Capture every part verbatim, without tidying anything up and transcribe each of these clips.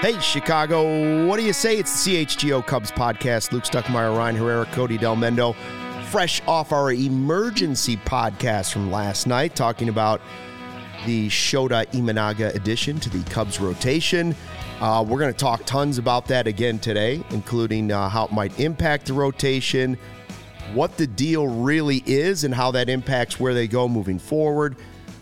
Hey, Chicago, what do you say? It's the C H G O Cubs podcast. Luke Stuckmeyer, Ryan Herrera, Cody Del Mendo, fresh off our emergency podcast from last night, talking about the Shota Imanaga addition to the Cubs rotation. Uh, we're going to talk tons about that again today, including uh, how it might impact the rotation, what the deal really is, and how that impacts where they go moving forward.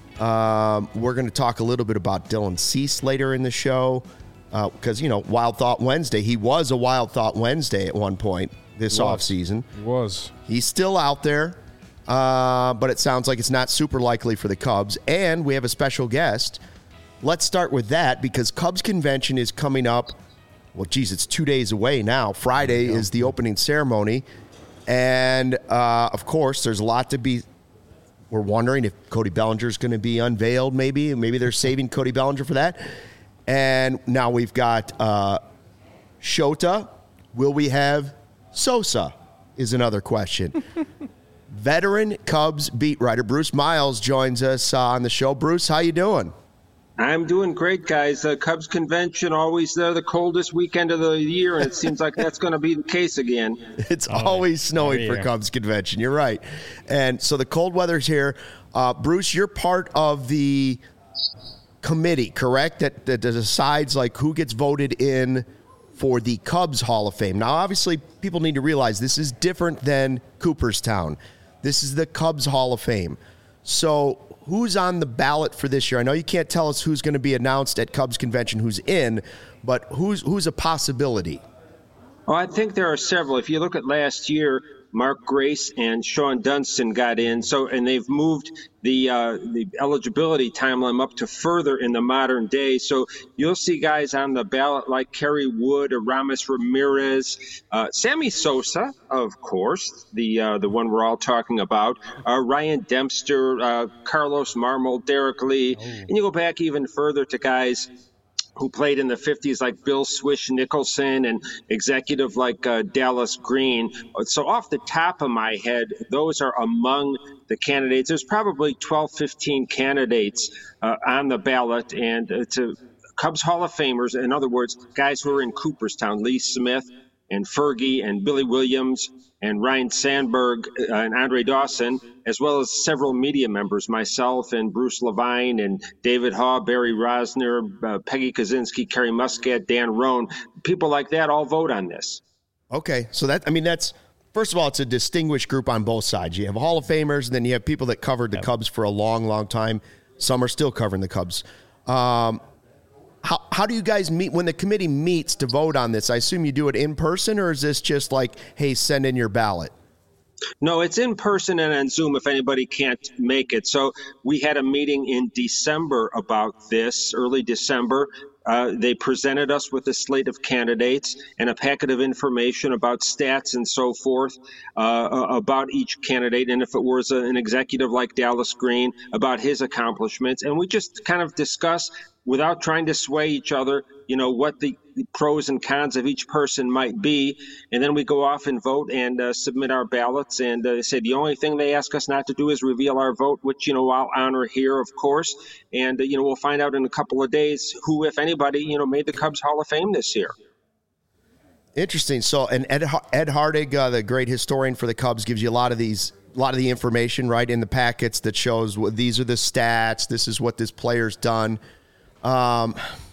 Um, we're going to talk a little bit about Dylan Cease later in the show. Because, uh, you know, Wild Thought Wednesday, he was a Wild Thought Wednesday at one point this offseason. He was. He's still out there, uh, but it sounds like it's not super likely for the Cubs. And we have a special guest. Let's start with that because Cubs Convention is coming up. Well, geez, it's two days away now. Friday is the opening ceremony. And, uh, of course, there's a lot to be. We're wondering if Cody Bellinger is going to be unveiled maybe. Maybe they're saving Cody Bellinger for that. And now we've got uh, Shota. Will we have Sosa is another question. Veteran Cubs beat writer Bruce Miles joins us uh, on the show. Bruce, how you doing? I'm doing great, guys. Uh, Cubs Convention, always uh, the coldest weekend of the year, and it seems like that's going to be the case again. It's oh, always snowing for Cubs Convention. You're right. And so the cold weather's here. Uh, Bruce, you're part of the committee, correct, that, that decides like who gets voted in for the Cubs Hall of Fame. Now, obviously, people need to realize this is different than Cooperstown. This is the Cubs Hall of Fame. So who's on the ballot for this year? I know you can't tell us who's going to be announced at Cubs Convention, who's in, but who's who's a possibility? Well, I think there are several. If you look at last year, Mark Grace and Sean Dunston got in, so and they've moved the uh, the eligibility timeline up to further in the modern day. So you'll see guys on the ballot like Kerry Wood, Aramis Ramirez, uh, Sammy Sosa, of course, the uh, the one we're all talking about, uh, Ryan Dempster, uh, Carlos Marmol, Derek Lee, oh. and you go back even further to guys who played in the fifties like Bill Swish Nicholson and executive like uh, Dallas Green. So off the top of my head, those are among the candidates. There's probably twelve, fifteen candidates uh, on the ballot, and uh, to Cubs Hall of Famers, in other words, guys who are in Cooperstown, Lee Smith and Fergie and Billy Williams and Ryan Sandberg uh, and Andre Dawson, as well as several media members, myself and Bruce Levine and David Haw, Barry Rosner, uh, Peggy Kaczynski, Kerry Muscat, Dan Roan. People like that all vote on this. Okay, so that, I mean, that's, first of all, it's a distinguished group on both sides. You have Hall of Famers, and then you have people that covered the yep. Cubs for a long, long time. Some are still covering the Cubs. Um, How how do you guys meet when the committee meets to vote on this? I assume you do it in person, or is this just like, hey, send in your ballot? No, it's in person and on Zoom if anybody can't make it. So we had a meeting in December about this, early December. Uh, they presented us with a slate of candidates and a packet of information about stats and so forth uh, about each candidate. And if it was an executive like Dallas Green, about his accomplishments. And we just kind of discuss without trying to sway each other, you know, what the pros and cons of each person might be. And then we go off and vote and uh, submit our ballots. And uh, they say the only thing they ask us not to do is reveal our vote, which, you know, I'll honor here, of course. And, uh, you know, we'll find out in a couple of days who, if anybody, you know, made the Cubs Hall of Fame this year. Interesting. So, and Ed, Ed Hardig, uh, the great historian for the Cubs, gives you a lot of these, a lot of the information, right, in the packets that shows well, these are the stats, this is what this player's done. Um,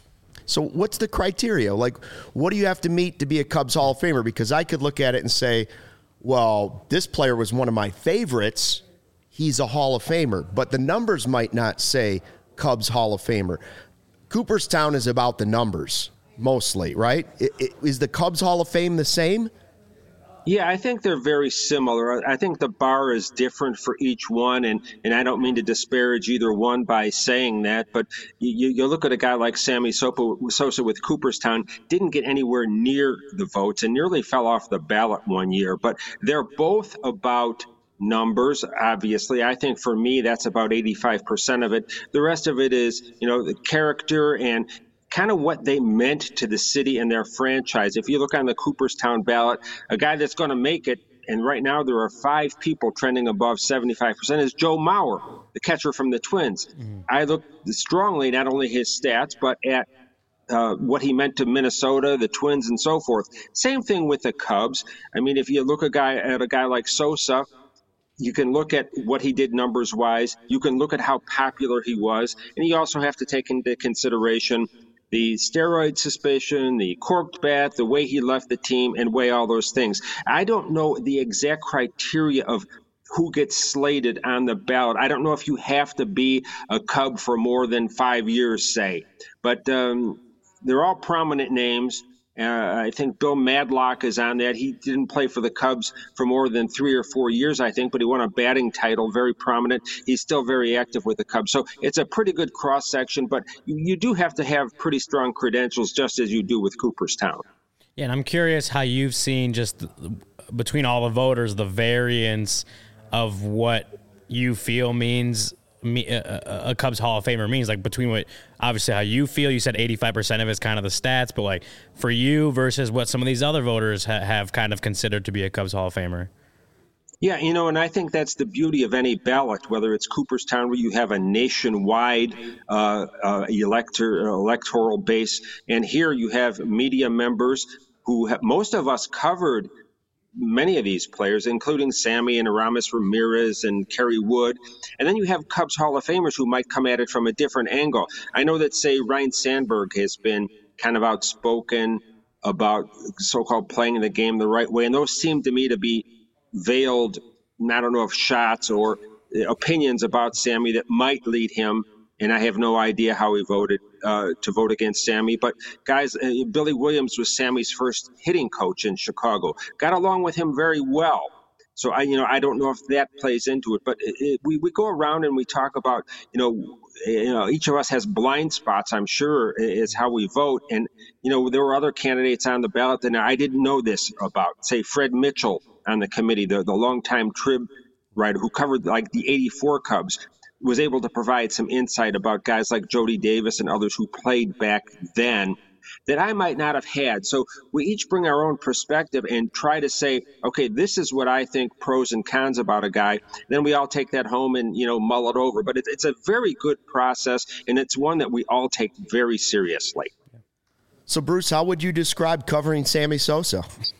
so what's the criteria? Like, what do you have to meet to be a Cubs Hall of Famer? Because I could look at it and say, well, this player was one of my favorites. He's a Hall of Famer, but the numbers might not say Cubs Hall of Famer. Cooperstown is about the numbers mostly, right? It, it, is the Cubs Hall of Fame the same? Yeah, I think they're very similar. I think the bar is different for each one, and, and I don't mean to disparage either one by saying that, but you, you look at a guy like Sammy Sosa with Cooperstown, didn't get anywhere near the votes and nearly fell off the ballot one year, but they're both about numbers, obviously. I think for me, that's about eighty-five percent of it. The rest of it is, you know, the character and kind of what they meant to the city and their franchise. If you look on the Cooperstown ballot, a guy that's going to make it, and right now there are five people trending above seventy-five percent, is Joe Mauer, the catcher from the Twins. Mm-hmm. I look strongly not only his stats, but at uh, what he meant to Minnesota, the Twins, and so forth. Same thing with the Cubs. I mean, if you look a guy at a guy like Sosa, you can look at what he did numbers-wise. You can look at how popular he was. And you also have to take into consideration the steroid suspicion, the corked bat, the way he left the team, and weigh all those things. I don't know the exact criteria of who gets slated on the ballot. I don't know if you have to be a Cub for more than five years, say. But um, they're all prominent names. Uh, I think Bill Madlock is on that. He didn't play for the Cubs for more than three or four years, I think, but he won a batting title, very prominent. He's still very active with the Cubs. So it's a pretty good cross-section, but you, you do have to have pretty strong credentials, just as you do with Cooperstown. Yeah, and I'm curious how you've seen just between all the voters, the variance of what you feel means me, a, a Cubs Hall of Famer means, like between what obviously how you feel. You said eighty-five percent of it's kind of the stats, but like for you versus what some of these other voters ha- have kind of considered to be a Cubs Hall of Famer. Yeah, you know, and I think that's the beauty of any ballot, whether it's Cooperstown, where you have a nationwide uh, uh, elector, electoral base, and here you have media members who have, most of us covered many of these players, including Sammy and Aramis Ramirez and Kerry Wood. And then you have Cubs Hall of Famers who might come at it from a different angle. I know that, say, Ryne Sandberg has been kind of outspoken about so-called playing the game the right way, and those seem to me to be veiled, I don't know if shots or opinions about Sammy that might lead him, and I have no idea how he voted uh, to vote against Sammy. But guys, uh, Billy Williams was Sammy's first hitting coach in Chicago. Got along with him very well. So I, you know, I don't know if that plays into it. But it, it, we we go around and we talk about, you know, you know, each of us has blind spots, I'm sure, is how we vote. And you know, there were other candidates on the ballot that I didn't know this about. Say Fred Mitchell on the committee, the the longtime Trib writer who covered like the eighty-four Cubs, was able to provide some insight about guys like Jody Davis and others who played back then that I might not have had. So we each bring our own perspective and try to say, okay, this is what I think pros and cons about a guy. Then we all take that home and, you know, mull it over. But it, it's a very good process, and it's one that we all take very seriously. So, Bruce, how would you describe covering Sammy Sosa?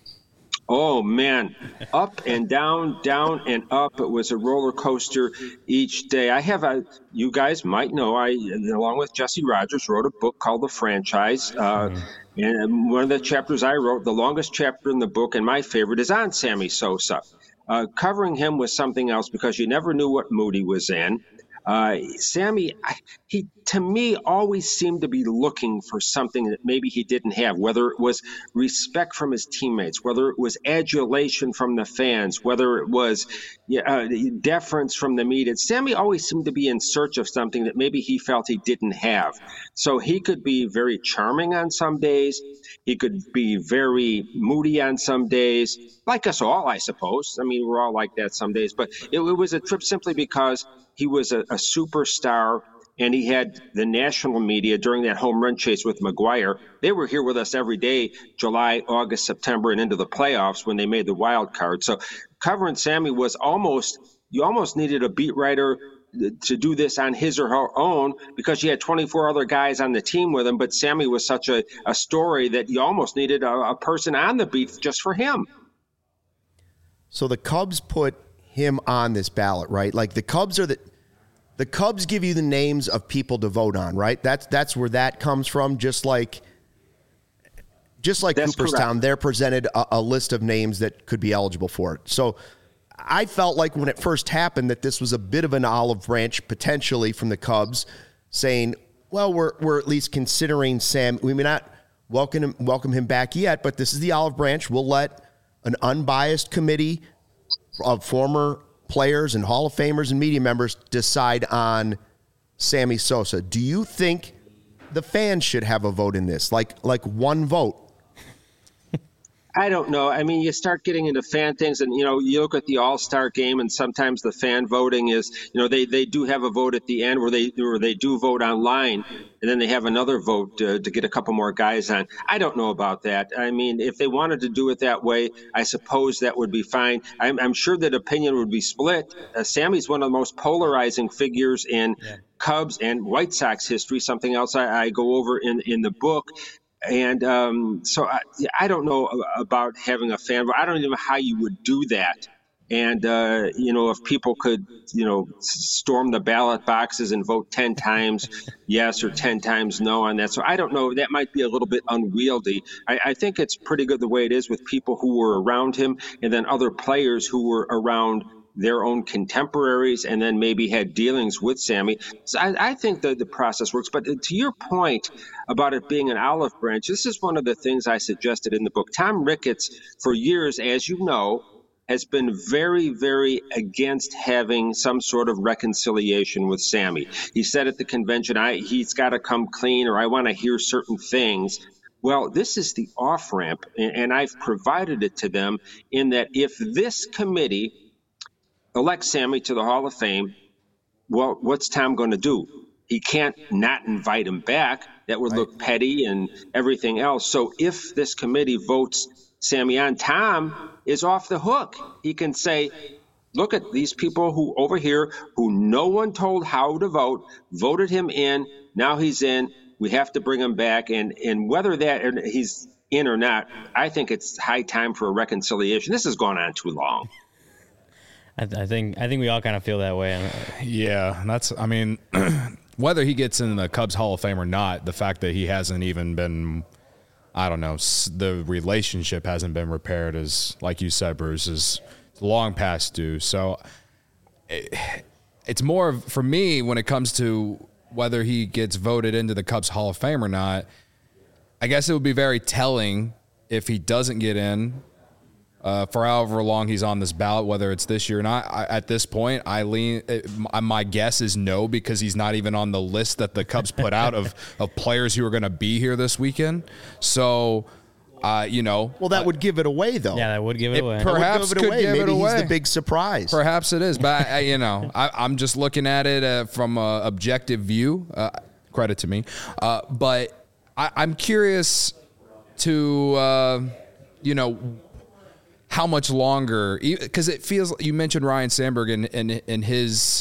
Oh, man, up and down, down and up. It was a roller coaster each day. I have a, you guys might know, I, along with Jesse Rogers, wrote a book called The Franchise. Uh, mm-hmm. And one of the chapters I wrote, the longest chapter in the book, and my favorite, is on Sammy Sosa. Uh, covering him was something else because you never knew what mood he was in. Uh, Sammy, he to me always seemed to be looking for something that maybe he didn't have, whether it was respect from his teammates, whether it was adulation from the fans, whether it was uh, deference from the media. Sammy always seemed to be in search of something that maybe he felt he didn't have. So he could be very charming on some days. He could be very moody on some days, like us all, I suppose. I mean, we're all like that some days. But it, it was a trip simply because he was a, a superstar, and he had the national media during that home run chase with McGwire. They were here with us every day, July, August, September, and into the playoffs when they made the wild card. So covering Sammy was almost, you almost needed a beat writer to do this on his or her own because you had twenty-four other guys on the team with him. But Sammy was such a, a story that you almost needed a, a person on the beat just for him. So the Cubs put him on this ballot, right? Like the Cubs are the the Cubs give you the names of people to vote on, right? That's that's where that comes from. Just like just like that's Cooperstown, correct. They're presented a, a list of names that could be eligible for it. So I felt like when it first happened that this was a bit of an olive branch potentially from the Cubs, saying, "Well, we're we're at least considering Sam. We may not welcome him, welcome him back yet, but this is the olive branch. We'll let an unbiased committee of former players and Hall of Famers and media members decide on Sammy Sosa." Do you think the fans should have a vote in this? Like like one vote? I don't know. I mean, you start getting into fan things, and you know, you look at the All-Star game, and sometimes the fan voting is, you know, they, they do have a vote at the end where they where they do vote online, and then they have another vote to, to get a couple more guys on. I don't know about that. I mean, if they wanted to do it that way, I suppose that would be fine. I'm, I'm sure that opinion would be split. Uh, Sammy's one of the most polarizing figures in yeah. Cubs and White Sox history. Something else I, I go over in in the book. And um, so I, I don't know about having a fan, but I don't even know how you would do that. And, uh, you know, if people could, you know, storm the ballot boxes and vote ten times yes or ten times no on that. So I don't know. That might be a little bit unwieldy. I, I think it's pretty good the way it is with people who were around him and then other players who were around their own contemporaries and then maybe had dealings with Sammy. So I, I think that the process works. But to your point about it being an olive branch, this is one of the things I suggested in the book. Tom Ricketts, for years, as you know, has been very, very against having some sort of reconciliation with Sammy. He said at the convention, I, he's got to come clean, or I want to hear certain things. Well, this is the off-ramp, and, and I've provided it to them in that if this committee elect Sammy to the Hall of Fame, well, what's Tom going to do? He can't not invite him back. That would right. look petty and everything else. So if this committee votes Sammy on, Tom is off the hook. He can say, look at these people who over here who no one told how to vote, voted him in. Now he's in. We have to bring him back. And, and whether that he's in or not, I think it's high time for a reconciliation. This has gone on too long. I, th- I think I think we all kind of feel that way. Yeah, that's. I mean, whether he gets in the Cubs Hall of Fame or not, the fact that he hasn't even been, I don't know, the relationship hasn't been repaired is, like you said, Bruce, is long past due. So it, it's more of, for me, when it comes to whether he gets voted into the Cubs Hall of Fame or not, I guess it would be very telling if he doesn't get in. Uh, for however long he's on this ballot, whether it's this year or not. I, at this point, I lean. It, my, my guess is no, because he's not even on the list that the Cubs put out of, of players who are going to be here this weekend. So, uh, you know. Well, that uh, would give it away, though. Yeah, that would give it, it away. Perhaps give it could away. give Maybe it away. He's the big surprise. Perhaps it is, but I, you know, I, I'm just looking at it uh, from an objective view. Uh, credit to me, uh, but I, I'm curious to, uh, you know. How much longer? Because it feels, you mentioned Ryne Sandberg and in, in, in his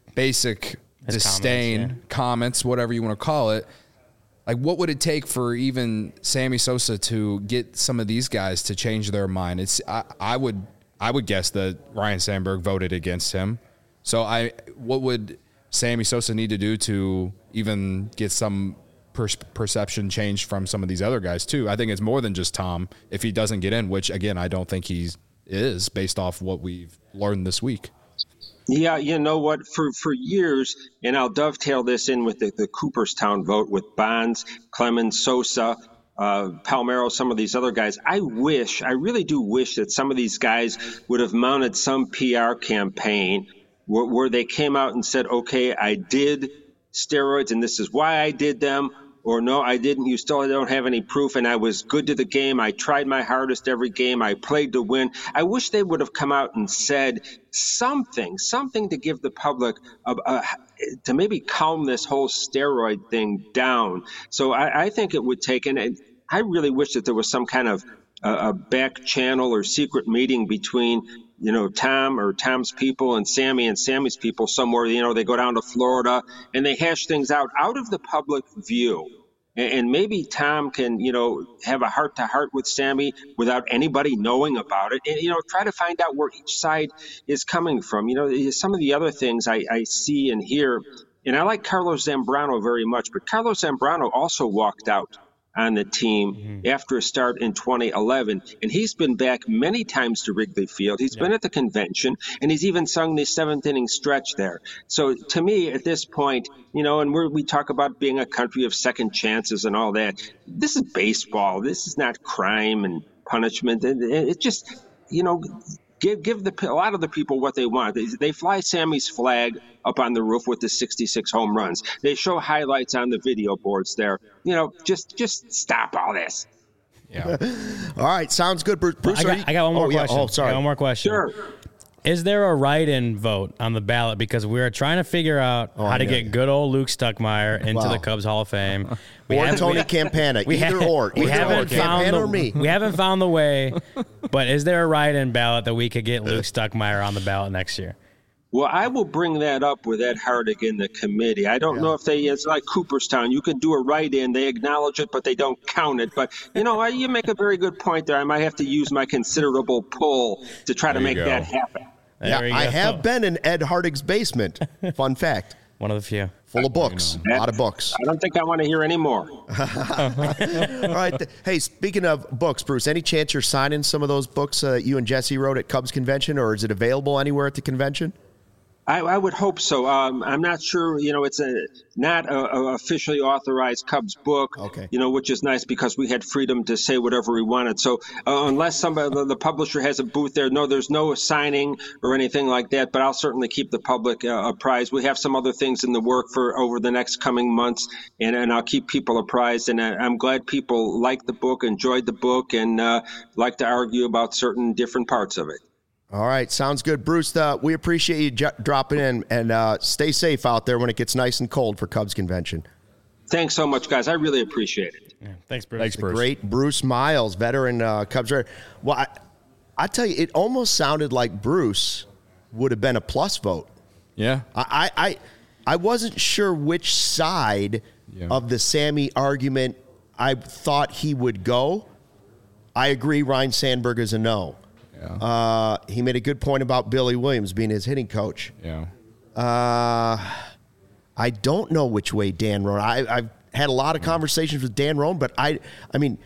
basic his disdain, comments, yeah. comments, whatever you want to call it. Like, what would it take for even Sammy Sosa to get some of these guys to change their mind? It's I, I would I would guess that Ryne Sandberg voted against him. So I, what would Sammy Sosa need to do to even get some per- perception change from some of these other guys too? I think it's more than just Tom if he doesn't get in, which again, I don't think he is based off what we've learned this week. Yeah, you know what? For for years, and I'll dovetail this in with the, the Cooperstown vote with Bonds, Clemens, Sosa, uh, Palmeiro, some of these other guys. I wish, I really do wish that some of these guys would have mounted some P R campaign where, where they came out and said, okay, I did steroids and this is why I did them. Or no, I didn't. You still don't have any proof, and I was good to the game. I tried my hardest every game. I played to win. I wish they would have come out and said something, something to give the public, a, a, to maybe calm this whole steroid thing down. So I, I think it would take, and I really wish that there was some kind of uh, a back channel or secret meeting between, you know, Tom or Tom's people and Sammy and Sammy's people somewhere. You know, they go down to Florida and they hash things out out of the public view. And maybe Tom can, you know, have a heart-to-heart with Sammy without anybody knowing about it. And, you know, try to find out where each side is coming from. You know, some of the other things I, I see and hear, and I like Carlos Zambrano very much, but Carlos Zambrano also walked out on the team mm-hmm. after a start in twenty eleven. And he's been back many times to Wrigley Field. He's yeah. been at the convention, and he's even sung the seventh inning stretch there. So to me, at this point, you know, and we're, we talk about being a country of second chances and all that. This is baseball. This is not crime and punishment. And it just, you know, give give the a lot of the people what they want. They, they fly Sammy's flag up on the roof with the sixty-six home runs. They show highlights on the video boards there. You know, just just stop all this. Yeah. All right, sounds good, Bruce. Bruce I, are got, you- I got one more oh, yeah. question. Oh, sorry. I got one more question. Sure. Is there a write-in vote on the ballot? Because we're trying to figure out Oh, how to yeah. get good old Luke Stuckmeyer into Wow. the Cubs Hall of Fame. We Or haven't- Tony we- Campana, we either ha- or. We Either haven't or, found Campana the, or me. We haven't found the way. But is there a write-in ballot that we could get Luke Stuckmeyer on the ballot next year? Well, I will bring that up with Ed Hardig in the committee. I don't know if they, it's like Cooperstown. You can do a write-in, they acknowledge it, but they don't count it. But, you know, I, you make a very good point there. I might have to use my considerable pull to try to There you make go. that happen. There Yeah, we I go. have been in Ed Hardig's basement. Fun fact. One of the few. Full of books. A lot of books. I don't think I want to hear any more. All right. th- Hey, speaking of books, Bruce, any chance you're signing some of those books uh, that you and Jesse wrote at Cubs Convention, or is it available anywhere at the convention? I, I would hope so. Um, I'm not sure. You know, it's a not a, a officially authorized Cubs book. Okay. You know, which is nice because we had freedom to say whatever we wanted. So uh, unless somebody, the, the publisher has a booth there, no, there's no signing or anything like that. But I'll certainly keep the public uh, apprised. We have some other things in the work for over the next coming months, and, and I'll keep people apprised. And I, I'm glad people liked the book, enjoyed the book, and uh, like to argue about certain different parts of it. All right. Sounds good. Bruce, uh, we appreciate you j- dropping in, and uh, stay safe out there when it gets nice and cold for Cubs Convention. Thanks so much, guys. I really appreciate it. Yeah. Thanks, Bruce. Thanks, Bruce. Great Bruce Miles, veteran uh, Cubs. Raider. Well, I, I tell you, it almost sounded like Bruce would have been a plus vote. Yeah. I, I, I wasn't sure which side Yeah. of the Sammy argument I thought he would go. I agree, Ryan Sandberg is a no. Yeah. Uh, he made a good point about Billy Williams being his hitting coach. Yeah. Uh, I don't know which way Dan Roan. I, I've had a lot of conversations with Dan Roan, but I, I mean,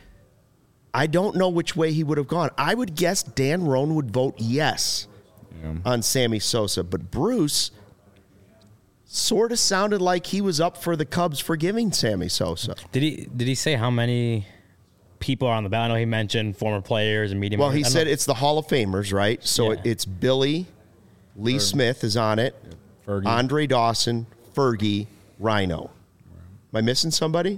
I don't know which way he would have gone. I would guess Dan Roan would vote yes Yeah. on Sammy Sosa, but Bruce sort of sounded like he was up for the Cubs forgiving Sammy Sosa. Did he did he say how many people are on the ballot? I know he mentioned former players and media. Well, he members. I said don't know. it's the Hall of Famers, right? So Yeah. it, it's Billy, Lee Smith is on it, Fergie. Andre Dawson, Fergie, Rhino. Am I missing somebody?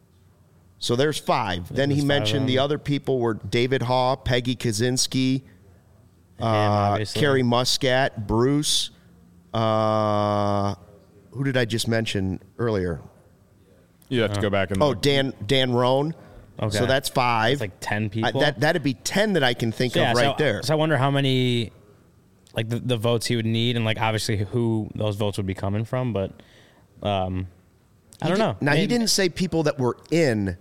So there's five. Then he there's five mentioned of the them. other people were David Haw, Peggy Kaczynski, Him, uh, obviously. Kerry Muscat, Bruce. Uh, who did I just mention earlier? You have to go back and Oh, look. Dan Dan Roan. Okay. So that's five. It's like ten I, people. that that'd be ten that I can think Yeah, of right so, there. So I wonder how many, like the, the votes he would need, and like obviously who those votes would be coming from. But um, I don't know. Now, he Maybe- didn't say people that were in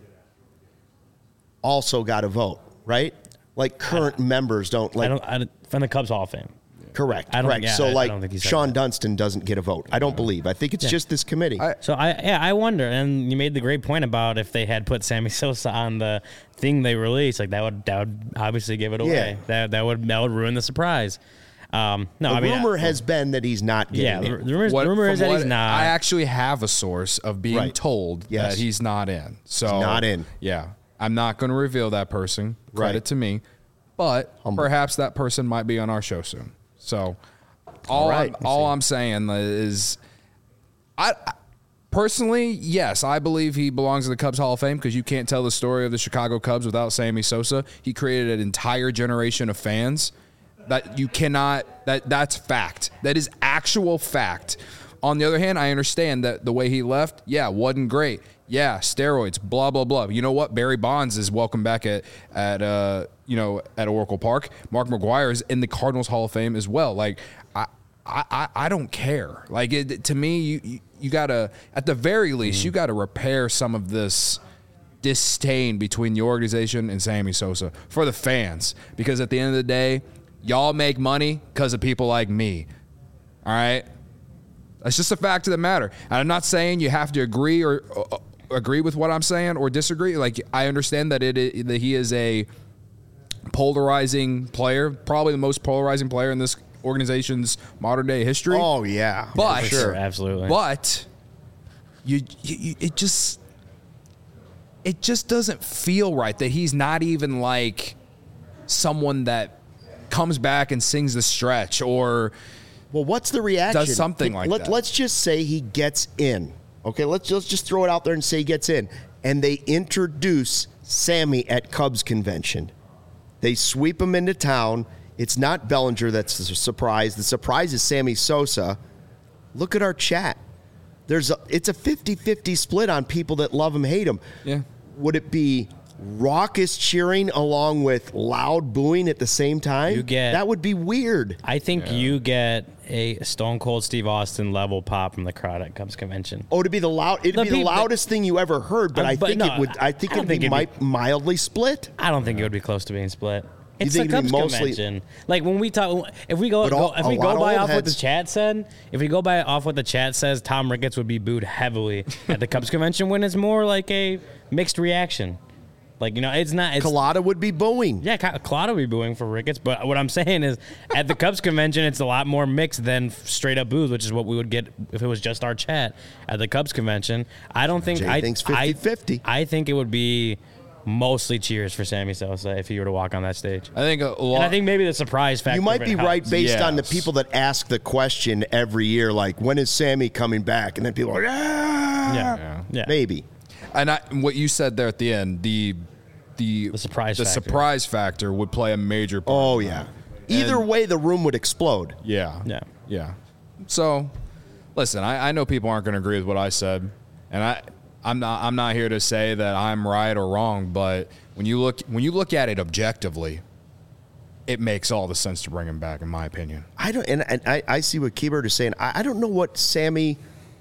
also got a vote, right? Like current members don't I like. don't. I don't from the Cubs Hall of Fame. Correct. I don't- correct. yeah, so I- I like don't think he said Sean that. Dunston doesn't get a vote. I don't believe. I think it's Yeah. just this committee. I- So I yeah I wonder, and you made the great point about if they had put Sammy Sosa on the thing they released, like that would that would obviously give it away. Yeah. That that would that would ruin the surprise. Um, no, the I mean rumor has been that he's not yeah. getting The in. rumor, What- the rumor from is that what- he's not. I actually have a source of being Right. told Yes. that he's not in. So He's not in. Yeah, I'm not going to reveal that person. Credit Right. to me, but Humble. perhaps that person might be on our show soon. So all right. I'm, all I'm saying is, I. I Personally, yes, I believe he belongs in the Cubs Hall of Fame because you can't tell the story of the Chicago Cubs without Sammy Sosa. He created an entire generation of fans that you cannot, that that's fact. That is actual fact. On the other hand, I understand that the way he left, yeah, wasn't great. Yeah, steroids, blah, blah, blah. You know what? Barry Bonds is welcome back at, at uh, you know, at Oracle Park. Mark McGwire is in the Cardinals Hall of Fame as well. Like, I, I, I- I don't care. Like, it, to me, you, you, you got to, at the very least, you got to repair some of this disdain between the organization and Sammy Sosa for the fans. Because at the end of the day, y'all make money because of people like me. All right? That's just a fact of the matter. And I'm not saying you have to agree or uh, agree with what I'm saying or disagree. Like, I understand that it that he is a polarizing player, probably the most polarizing player in this organization's modern day history. Oh yeah, But- for sure, sure. absolutely. But you, you, you it just it just doesn't feel right that he's not even like someone that comes back and sings the stretch or Well, what's the reaction? Does something like Let, that. Let's just say he gets in. Okay, let's let's just throw it out there and say he gets in, and they introduce Sammy at Cubs convention. They sweep him into town. It's not Bellinger that's the surprise. The surprise is Sammy Sosa. Look at our chat. There's a, it's a fifty-fifty split on people that love him, hate him. Yeah. Would it be raucous cheering along with loud booing at the same time? You get- that would be weird. I think you get a Stone Cold Steve Austin level pop from the crowd at Cubs convention. Oh, to be the loud, it'd The be the people- loudest thing you ever heard. But Um, I but think no, it would. I think I don't it'd be, think it'd be- mi- mildly split. I don't think it would be close to being split. It's think the it'd be Cubs mostly- convention. Like when we talk, if we go, But all- go if a we lot go of by old off what the heads- chat said, if we go by off what the chat says, Tom Ricketts would be booed heavily at the Cubs convention when it's more like a mixed reaction. Like, you know, it's not. It's, Colada would be booing. yeah, Claude will be booing for Ricketts, but what I'm saying is, at the Cubs convention, it's a lot more mixed than straight up boos, which is what we would get if it was just our chat at the Cubs convention. I don't think Jay I thinks I- fifty-fifty. I think it would be mostly cheers for Sammy Sosa if he were to walk on that stage. I think a lot. And I think maybe the surprise factor. You might of be it right helps. based on the Yes. people that ask the question every year, like, when is Sammy coming back? And then people are, yeah, Yeah, yeah. maybe. And I, what you said there at the end, the the The surprise the factor. surprise factor would play a major part. Oh, in yeah. that. Either And- way, the room would explode. Yeah. Yeah. Yeah. So, listen, I, I know people aren't going to agree with what I said, and I I'm not I'm not here to say that I'm right or wrong, but when you look when you look at it objectively, it makes all the sense to bring him back, in my opinion. I don't, and, and I, I see what Keybird is saying. I, I don't know what Sammy.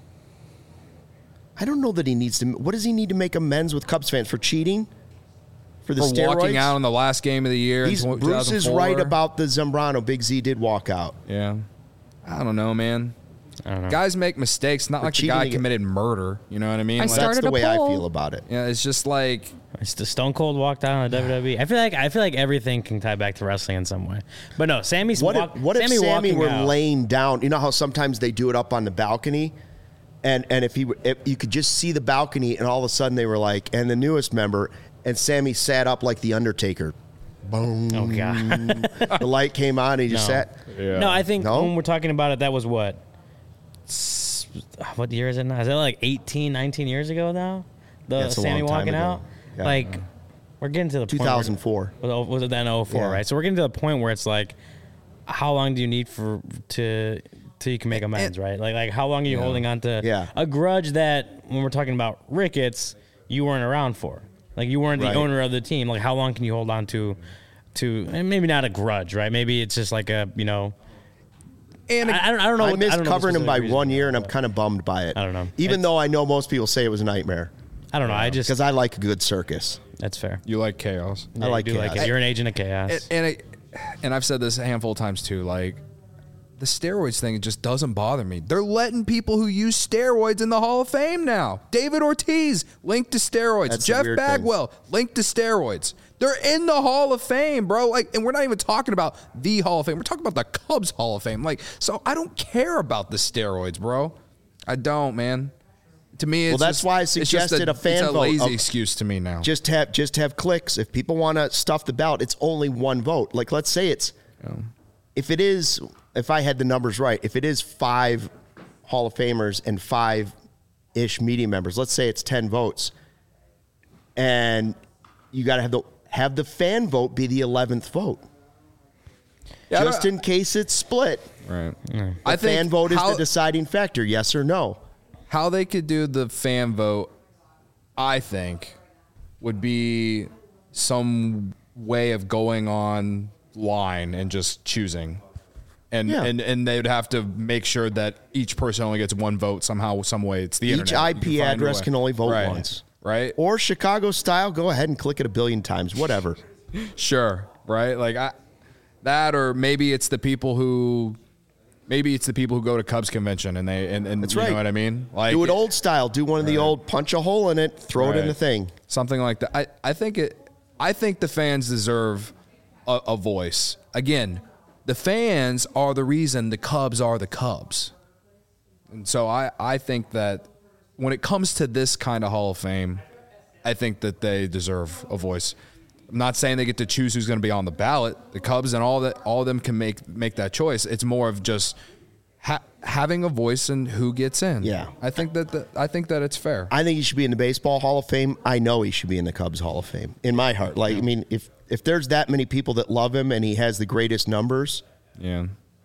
I don't know that he needs to. What does he need to make amends with Cubs fans for cheating? For the For steroids? walking out in the last game of the year, He's, in Bruce is 2004. right about the Zambrano. Big Z did walk out. Yeah. I don't know, man. I don't know. Guys make mistakes. Not For like the cheating guy again. committed murder. You know what I mean? I Like, started That's the a way I poll. feel about it. yeah, it's just like It's the Stone Cold walked out on the W W E. I feel like I feel like everything can tie back to wrestling in some way. But no, Sammy's What walk, if, what if Sammy, Sammy walking were out, laying down? You know how sometimes they do it up on the balcony, and and if he were- if you could just see the balcony, and all of a sudden they were like, and the newest member, and Sammy sat up like the Undertaker. Boom. Oh god. The light came on, and he just No. sat. Yeah. No, I think No? when we're talking about it, that was what? S- What year is it now? Is that like eighteen, nineteen years ago now? The Yeah, it's a Sammy long time walking ago. out? Yeah. Like, we're getting to the two point. where- thousand four. Was it- Was it then oh four, Yeah. right? So we're getting to the point where it's like, how long do you need for to till you can make amends, right? Like, like how long are you holding on to Yeah. a grudge that when we're talking about Ricketts, you weren't around for? Like, you weren't the Right. owner of the team. Like, how long can you hold on to? To and maybe not a grudge, right? Maybe it's just like a you know. and I, I don't. I don't know. I what- missed don't know the covering him by specific reason. one year, and I'm kind of bummed by it. I don't know. Even It's- though I know most people say it was a nightmare, I don't know. I just because I like a good circus. that's fair. you like chaos. Yeah, like you do like chaos. it. You're an agent of chaos. And and, it, and I've said this a handful of times too. Like the steroids thing, it just doesn't bother me. They're letting people who use steroids in the Hall of Fame now. David Ortiz linked to steroids. That's the Jeff weird thing. Bagwell linked to steroids. They're in the Hall of Fame, bro. Like, and we're not even talking about the Hall of Fame. We're talking about the Cubs Hall of Fame. Like, so I don't care about the steroids, bro. I don't, man. To me, it's Well, that's just- why I it's just suggested a fan it's a vote lazy of- excuse to me now. Just have just have clicks. If people want to stuff the ballot, it's only one vote. Like let's say it's if it is if I had the numbers right, if it is five Hall of Famers and five ish media members, let's say it's ten votes, and you got to have the have the fan vote be the eleventh vote, Yeah, I just don't- in case it's split. right. The I think fan vote is how- the deciding factor, yes or no. How they could do the fan vote, I think, would be some way of going online and just choosing. And, Yeah. and and they would have to make sure that each person only gets one vote somehow, some way. It's the Each internet. I You can P find a address way. can only vote Right. once. Right? Or Chicago style, go ahead and click it a billion times, whatever. Sure. Right? Like I, that, or maybe it's the people who, maybe it's the people who go to Cubs convention and they and, and That's you right. know what I mean? Like Do it old style. Do one of the old punch a hole in it, throw it in Right. the thing. Something like that. I, I think it. I think the fans deserve a, a voice. Again, the fans are the reason the Cubs are the Cubs, and so I, I think that when it comes to this kind of Hall of Fame, I think that they deserve a voice. I'm not saying they get to choose who's going to be on the ballot. The Cubs and all that, all of them can make make that choice. It's more of just ha- having a voice in who gets in. Yeah. I think that the, I think that it's fair. I think he should be in the Baseball Hall of Fame. I know he should be in the Cubs Hall of Fame in my heart. Like, I mean, if if there's that many people that love him and he has the greatest numbers, Yeah.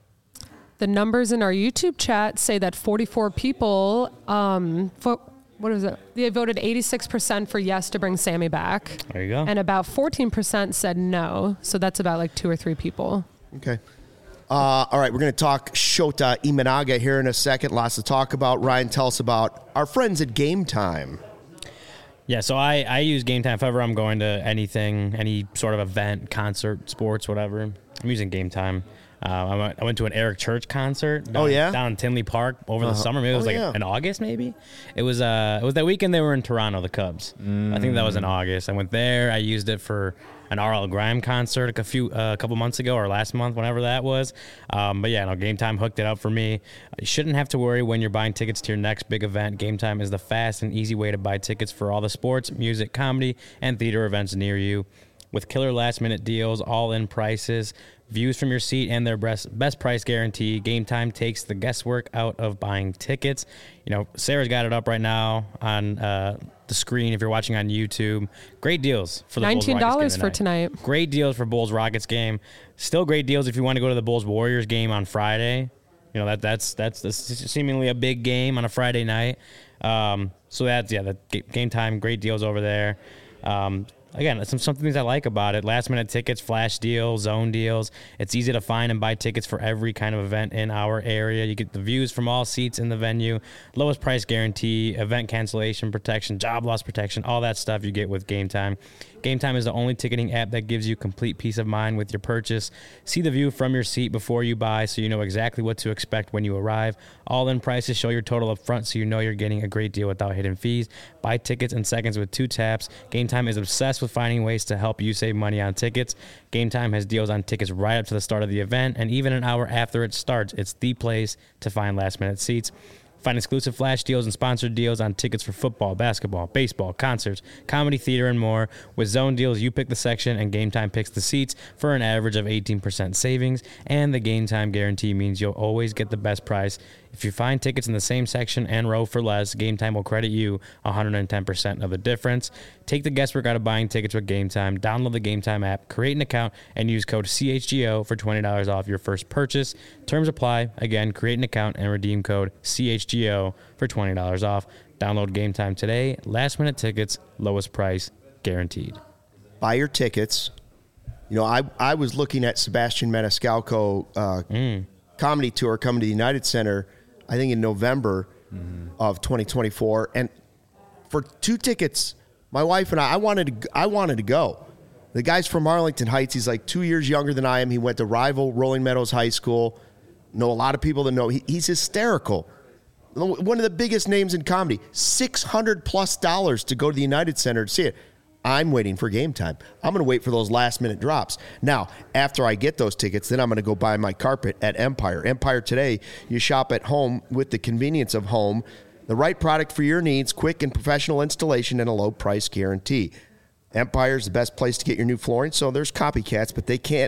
The numbers in our YouTube chat say that forty-four people, um, for, what is it? They voted eighty-six percent for yes to bring Sammy back. There you go. And about fourteen percent said no. So that's about like two or three people. okay. Uh, all right, we're going to talk Shota Imanaga here in a second. Lots to talk about. Ryan, tell us about our friends at Game Time. Yeah, so I, I use Game Time if ever I'm going to anything, any sort of event, concert, sports, whatever. I'm using Game Time. Uh, I, went, I went to an Eric Church concert. Down, Oh, yeah? down in Tinley Park over the Uh-huh. summer. Maybe it was Oh, like yeah. in August, maybe. It was uh, it was that weekend they were in Toronto, the Cubs. I think that was in August. I went there. I used it for an R L Grime concert a few uh, a couple months ago or last month, whenever that was. Um, but yeah, no, Game Time hooked it up for me. You shouldn't have to worry when you're buying tickets to your next big event. Game Time is the fast and easy way to buy tickets for all the sports, music, comedy, and theater events near you. With killer last-minute deals, all-in prices, views from your seat, and their best, best price guarantee, Game Time takes the guesswork out of buying tickets. You know, Sarah's got it up right now on uh, the screen if you're watching on YouTube. Great deals for the nineteen dollars Bulls-Rockets game for tonight. Great deals for Bulls-Rockets game. Still great deals if you want to go to the Bulls-Warriors game on Friday. You know, that that's that's, that's seemingly a big game on a Friday night. Um, so that's, yeah, the Game Time, great deals over there. Um, Again, some some things I like about it. Last minute tickets, flash deals, zone deals. It's easy to find and buy tickets for every kind of event in our area. You get the views from all seats in the venue, lowest price guarantee, event cancellation protection, job loss protection, all that stuff you get with Game Time. Game Time is the only ticketing app that gives you complete peace of mind with your purchase. See the view from your seat before you buy so you know exactly what to expect when you arrive. All-in prices show your total up front so you know you're getting a great deal without hidden fees. Buy tickets in seconds with two taps. Game Time is obsessed with finding ways to help you save money on tickets. Game Time has deals on tickets right up to the start of the event, and even an hour after it starts. It's the place to find last-minute seats. Find exclusive flash deals and sponsored deals on tickets for football, basketball, baseball, concerts, comedy, theater, and more. With zone deals, you pick the section and Game Time picks the seats for an average of eighteen percent savings. And the Game Time guarantee means you'll always get the best price. If you find tickets in the same section and row for less, Game Time will credit you one hundred ten percent of the difference. Take the guesswork out of buying tickets with Game Time. Download the Game Time app, create an account, and use code C H G O for twenty dollars off your first purchase. Terms apply. Again, create an account and redeem code C H G O for twenty dollars off. Download Game Time today. Last minute tickets, lowest price guaranteed. Buy your tickets. You know, I I was looking at Sebastian Maniscalco uh, Mm. comedy tour coming to the United Center, I think in November Mm-hmm. of twenty twenty-four, and for two tickets, my wife and I, I wanted to, I wanted to go. The guy's from Arlington Heights. He's like two years younger than I am. He went to rival Rolling Meadows High School. Know a lot of people that know. He, he's hysterical. One of the biggest names in comedy. six hundred plus dollars to go to the United Center to see it. I'm waiting for Game Time. I'm going to wait for those last minute drops. Now, after I get those tickets, then I'm going to go buy my carpet at Empire. Empire today, you shop at home with the convenience of home. The right product for your needs, quick and professional installation, and a low price guarantee. Empire is the best place to get your new flooring. So there's copycats, but they can't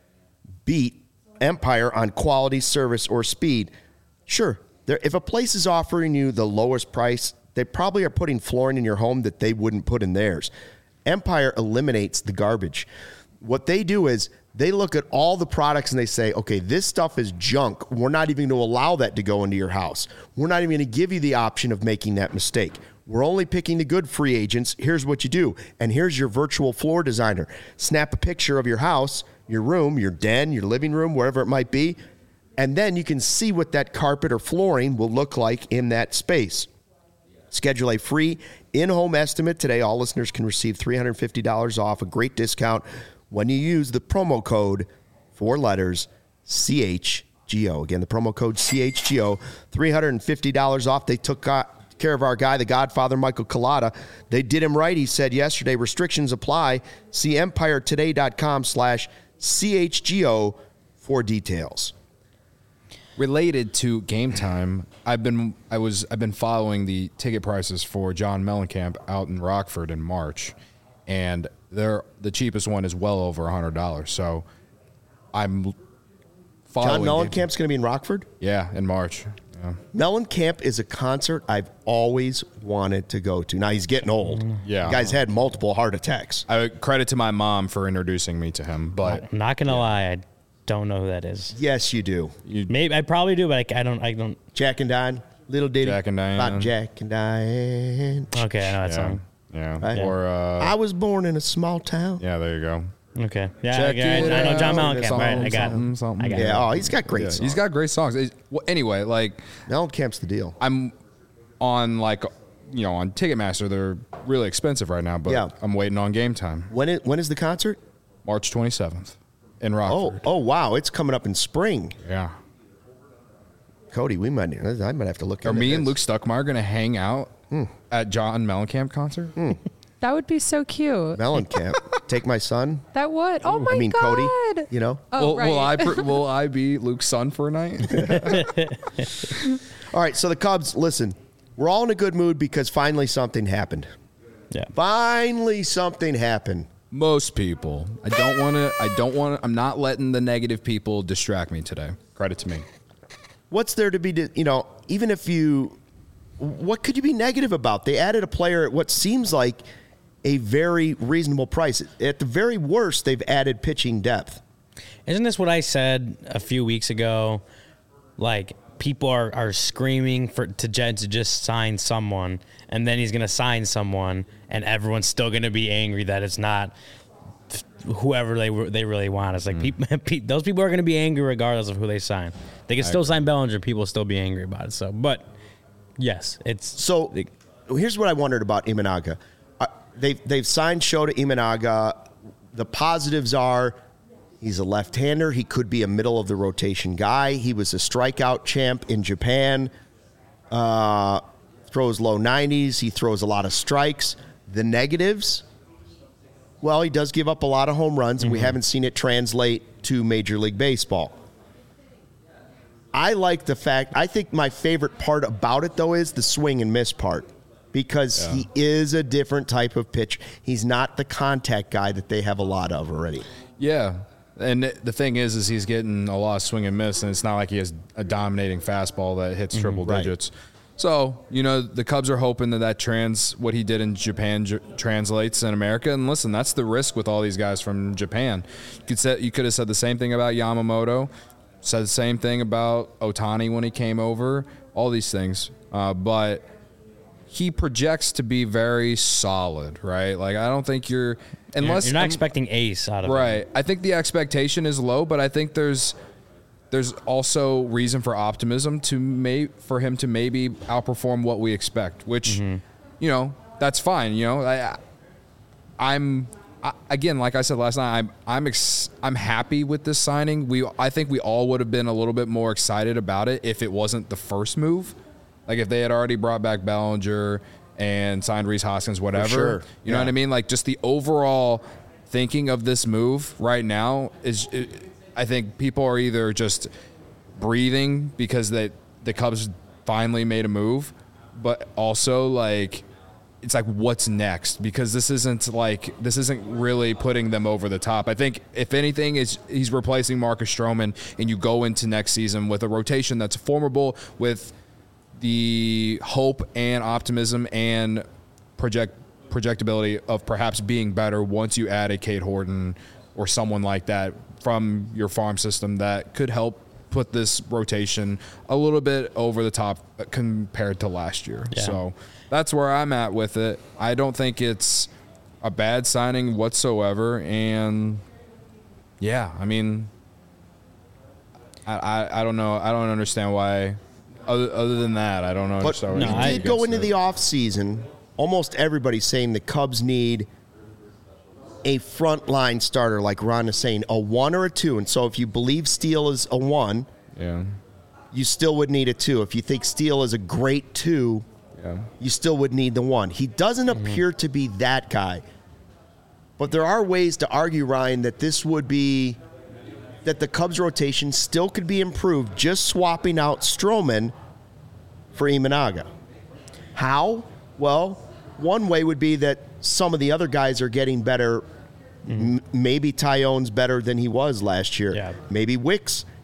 beat Empire on quality, service, or speed. Sure, there, if a place is offering you the lowest price, they probably are putting flooring in your home that they wouldn't put in theirs. Empire eliminates the garbage. What they do is they look at all the products and they say, okay, this stuff is junk. We're not even going to allow that to go into your house. We're not even going to give you the option of making that mistake. We're only picking the good free agents. Here's what you do. And here's your virtual floor designer. Snap a picture of your house, your room, your den, your living room, wherever it might be. And then you can see what that carpet or flooring will look like in that space. Schedule a free in-home estimate today. All listeners can receive three hundred fifty dollars off, a great discount when you use the promo code, four letters, C H G O. Again, the promo code C H G O, three hundred fifty dollars off. They took care of our guy, the Godfather, Michael Collada. They did him right. He said yesterday, restrictions apply. See empiretoday.com slash CHGO for details. Related to Game Time, I've been I was I've been following the ticket prices for John Mellencamp out in Rockford in March, and they're the cheapest one is well over a hundred dollars. So I'm following John game. Mellencamp's going to be in Rockford? Yeah, in March. Yeah. Mellencamp is a concert I've always wanted to go to. Now, he's getting old. Yeah. The guy's had multiple heart attacks. I credit to my mom for introducing me to him, but I'm not gonna lie, I don't know who that is. Yes, you do. Maybe I probably do, but I, I don't. I don't. Jack and Diane. Little ditty. Jack and Diane. About Jack and Diane. Okay, I know that yeah, song. yeah. Right. Or uh, I was born in a small town. yeah, there you go. Okay, yeah, Check I, I, it I know John out. Mellencamp. Something, Right, I got something, it. something. I got Yeah, it. oh, he's got great Yeah, songs. he's got great songs. It's- well, anyway, like Mellencamp's the deal. I'm on like you know on Ticketmaster. They're really expensive right now, but Yeah. I'm waiting on Game Time. When is, when is the concert? March twenty-seventh in Oh, Rockford. oh, wow. It's coming up in spring. Yeah. Cody, we might I might have to look Are into me and this. Luke Stuckmeyer going to hang out Hmm. at John Mellencamp concert? That would be so cute. Mellencamp. Take my son. That would. Oh my I mean, god. Cody. You know? Oh, will, right. will I pr- will I be Luke's son for a night? All right, so the Cubs, listen, we're all in a good mood because finally something happened. Yeah. Finally something happened. Most people. I don't want to. I don't want to. I'm not letting the negative people distract me today. Credit to me. What's there to be, di- you know, even if you, what could you be negative about? They added a player at what seems like a very reasonable price. At the very worst, they've added pitching depth. Isn't this what I said a few weeks ago? Like people are, are screaming for to Jed to just sign someone, and then he's going to sign someone, and everyone's still going to be angry that it's not whoever they they really want. It's like Mm. people, those people are going to be angry regardless of who they sign. They can still sign Bellinger, people will still be angry about it. So, but yes, it's So here's what I wondered about Imanaga. Uh, they've, they've signed Shota Imanaga. The positives are he's a left-hander. He could be a middle-of-the-rotation guy. He was a strikeout champ in Japan. Uh, throws low nineties. He throws a lot of strikes. The negatives, well, he does give up a lot of home runs, and we haven't seen it translate to Major League Baseball. I like the fact, I think my favorite part about it, though, is the swing and miss part because Yeah. he is a different type of pitch. He's not the contact guy that they have a lot of already. Yeah. And the thing is, is he's getting a lot of swing and miss, and it's not like he has a dominating fastball that hits triple Right. digits. So, you know, the Cubs are hoping that that trans what he did in Japan j- translates in America. And listen, that's the risk with all these guys from Japan. You could say, you could have said the same thing about Yamamoto, said the same thing about Ohtani when he came over, all these things. Uh, but he projects to be very solid, right? Like, I don't think you're – unless you're not um, expecting ace out of him. Right. I think the expectation is low, but I think there's there's also reason for optimism to may for him to maybe outperform what we expect, which Mm-hmm. you know, that's fine, you know. I I'm I, again, like I said last night, I'm I'm ex, I'm happy with this signing. We I think we all would have been a little bit more excited about it if it wasn't the first move. Like if they had already brought back Bellinger and signed Rhys Hoskins, whatever. sure. You know Yeah. what I mean? Like just the overall thinking of this move right now is, it, I think people are either just breathing because they, the Cubs finally made a move, but also like it's like what's next, because this isn't like this isn't really putting them over the top. I think if anything is he's replacing Marcus Stroman, and you go into next season with a rotation that's formidable with the hope and optimism and project projectability of perhaps being better once you add a Cade Horton or someone like that from your farm system that could help put this rotation a little bit over the top compared to last year. Yeah. So that's where I'm at with it. I don't think it's a bad signing whatsoever. And yeah, I mean, I, I, I don't know. I don't understand why. Other, other than that, I don't know. But No, we I- did go into the offseason, almost everybody saying the Cubs need a frontline starter, like Ron is saying, a one or a two. And so if you believe Steele is a one, Yeah. you still would need a two. If you think Steele is a great two, Yeah. you still would need the one. He doesn't appear to be that guy. But there are ways to argue, Ryan, that this would be that the Cubs rotation still could be improved just swapping out Stroman for Imanaga. How? Well, one way would be that some of the other guys are getting better. M- maybe Tyone's better than he was last year. Yeah. Maybe Wicks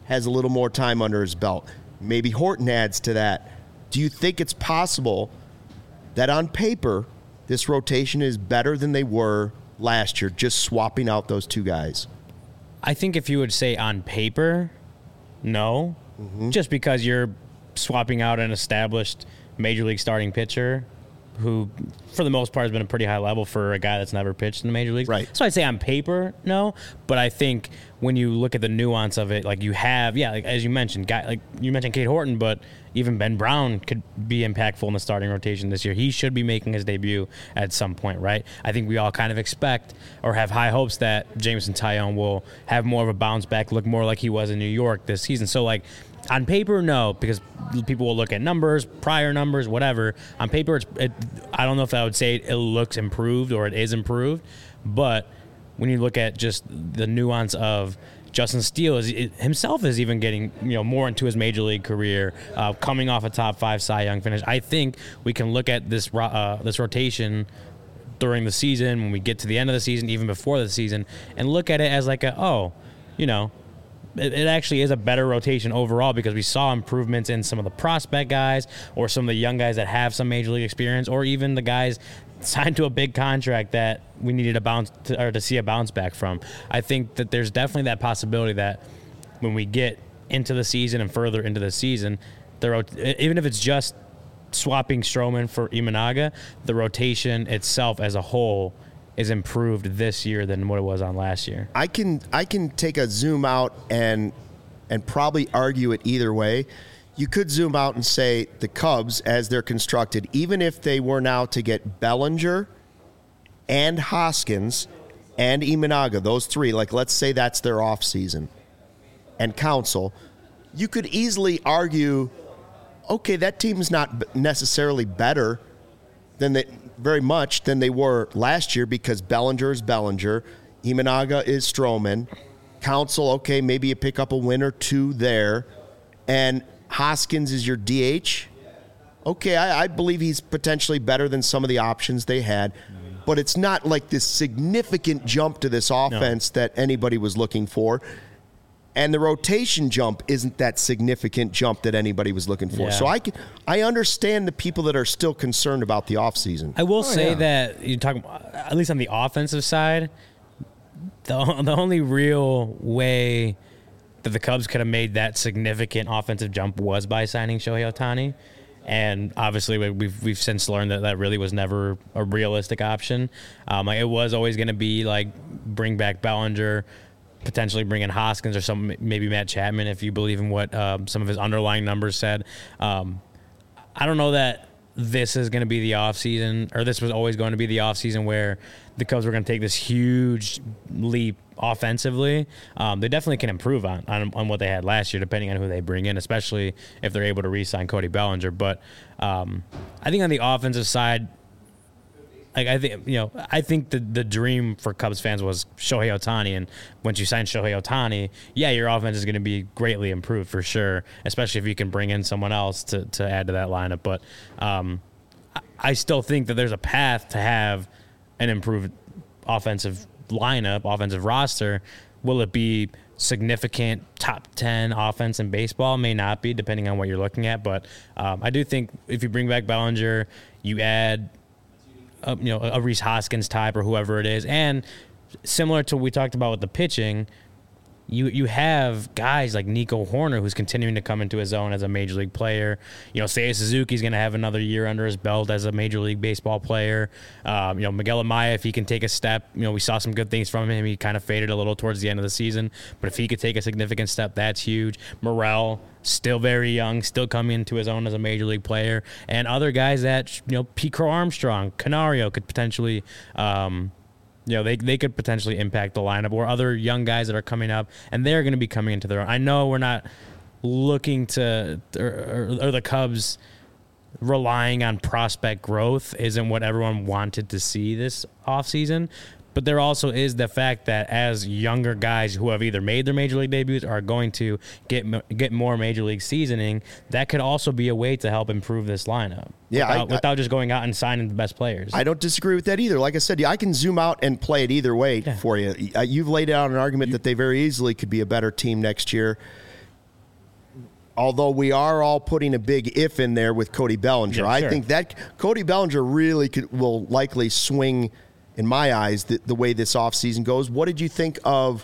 has a little more time under his belt. Maybe Horton adds to that. Do you think it's possible that on paper this rotation is better than they were last year, just swapping out those two guys? I think if you would say on paper, no. Mm-hmm. Just because you're swapping out an established major league starting pitcher who, for the most part, has been a pretty high level for a guy that's never pitched in the major leagues. Right. So I'd say on paper, no. But I think when you look at the nuance of it, like you have, yeah, like as you mentioned, guy, like you mentioned Cade Horton, but even Ben Brown could be impactful in the starting rotation this year. He should be making his debut at some point, right? I think we all kind of expect or have high hopes that Jameson Taillon will have more of a bounce back, look more like he was in New York this season. So, like, on paper, no, because people will look at numbers, prior numbers, whatever. On paper, it's, it, I don't know if I would say it looks improved or it is improved, but when you look at just the nuance of Justin Steele is it, himself is even getting you know more into his major league career, uh, coming off a top five Cy Young finish. I think we can look at this uh, this rotation during the season when we get to the end of the season, even before the season, and look at it as like a oh, you know. It actually is a better rotation overall because we saw improvements in some of the prospect guys or some of the young guys that have some major league experience, or even the guys signed to a big contract that we needed a bounce to, or to see a bounce back from. I think that there's definitely that possibility that when we get into the season and further into the season, the even if it's just swapping Stroman for Imanaga, the rotation itself as a whole is improved this year than what it was on last year. I can I can take a zoom out and and probably argue it either way. You could zoom out and say the Cubs, as they're constructed, even if they were now to get Bellinger and Hoskins and Imanaga, those three, like let's say that's their offseason, and Counsell, you could easily argue, okay, that team's not necessarily better than they very much than they were last year because Bellinger is Bellinger, Imanaga is Stroman, Counsell, okay, maybe you pick up a win or two there, and Hoskins is your D H. Okay, I, I believe he's potentially better than some of the options they had, but it's not like this significant jump to this offense no. that anybody was looking for. And the rotation jump isn't that significant jump that anybody was looking for. Yeah. So I can, I understand the people that are still concerned about the offseason. I will oh, say yeah. that you talk at least on the offensive side, the the only real way that the Cubs could have made that significant offensive jump was by signing Shohei Ohtani. And obviously, we've we've since learned that that really was never a realistic option. Um, like it was always going to be like bring back Bellinger, potentially bring in Hoskins or some maybe Matt Chapman if you believe in what um, some of his underlying numbers said. Um, I don't know that this is going to be the offseason, or this was always going to be the offseason where the Cubs were going to take this huge leap offensively. Um, they definitely can improve on, on on what they had last year, depending on who they bring in, especially if they're able to re-sign Cody Bellinger. But um, I think on the offensive side, like I think you know, I think the the dream for Cubs fans was Shohei Ohtani, and once you sign Shohei Ohtani, yeah, your offense is going to be greatly improved for sure, especially if you can bring in someone else to to add to that lineup. But um, I, I still think that there's a path to have an improved offensive lineup, offensive roster. Will it be significant top ten offense in baseball? May not be, depending on what you're looking at. But um, I do think if you bring back Bellinger, you add A, you know, a Rhys Hoskins type or whoever it is. And similar to what we talked about with the pitching, you you have guys like Nico Horner who's continuing to come into his own as a major league player. You know, Seiya Suzuki's going to have another year under his belt as a major league baseball player. Um, you know, Miguel Amaya, if he can take a step, you know, we saw some good things from him. He kind of faded a little towards the end of the season. But if he could take a significant step, that's huge. Morel, still very young, still coming into his own as a major league player. And other guys that, you know, Pete Crow Armstrong, Canario could potentially um, – you know, they they could potentially impact the lineup, or other young guys that are coming up, and they're going to be coming into their own. I know we're not looking to, or, or, or the Cubs relying on prospect growth isn't what everyone wanted to see this offseason, but there also is the fact that as younger guys who have either made their major league debuts or are going to get get more major league seasoning, that could also be a way to help improve this lineup. Yeah, without, I, without just going out and signing the best players. I don't disagree with that either. Like I said, I can zoom out and play it either way yeah. for you. You've laid out an argument that they very easily could be a better team next year. although we are all putting a big if in there with Cody Bellinger. Yeah, I sure. think that Cody Bellinger really could, will likely swing, in my eyes, the, the way this offseason goes. What did you think of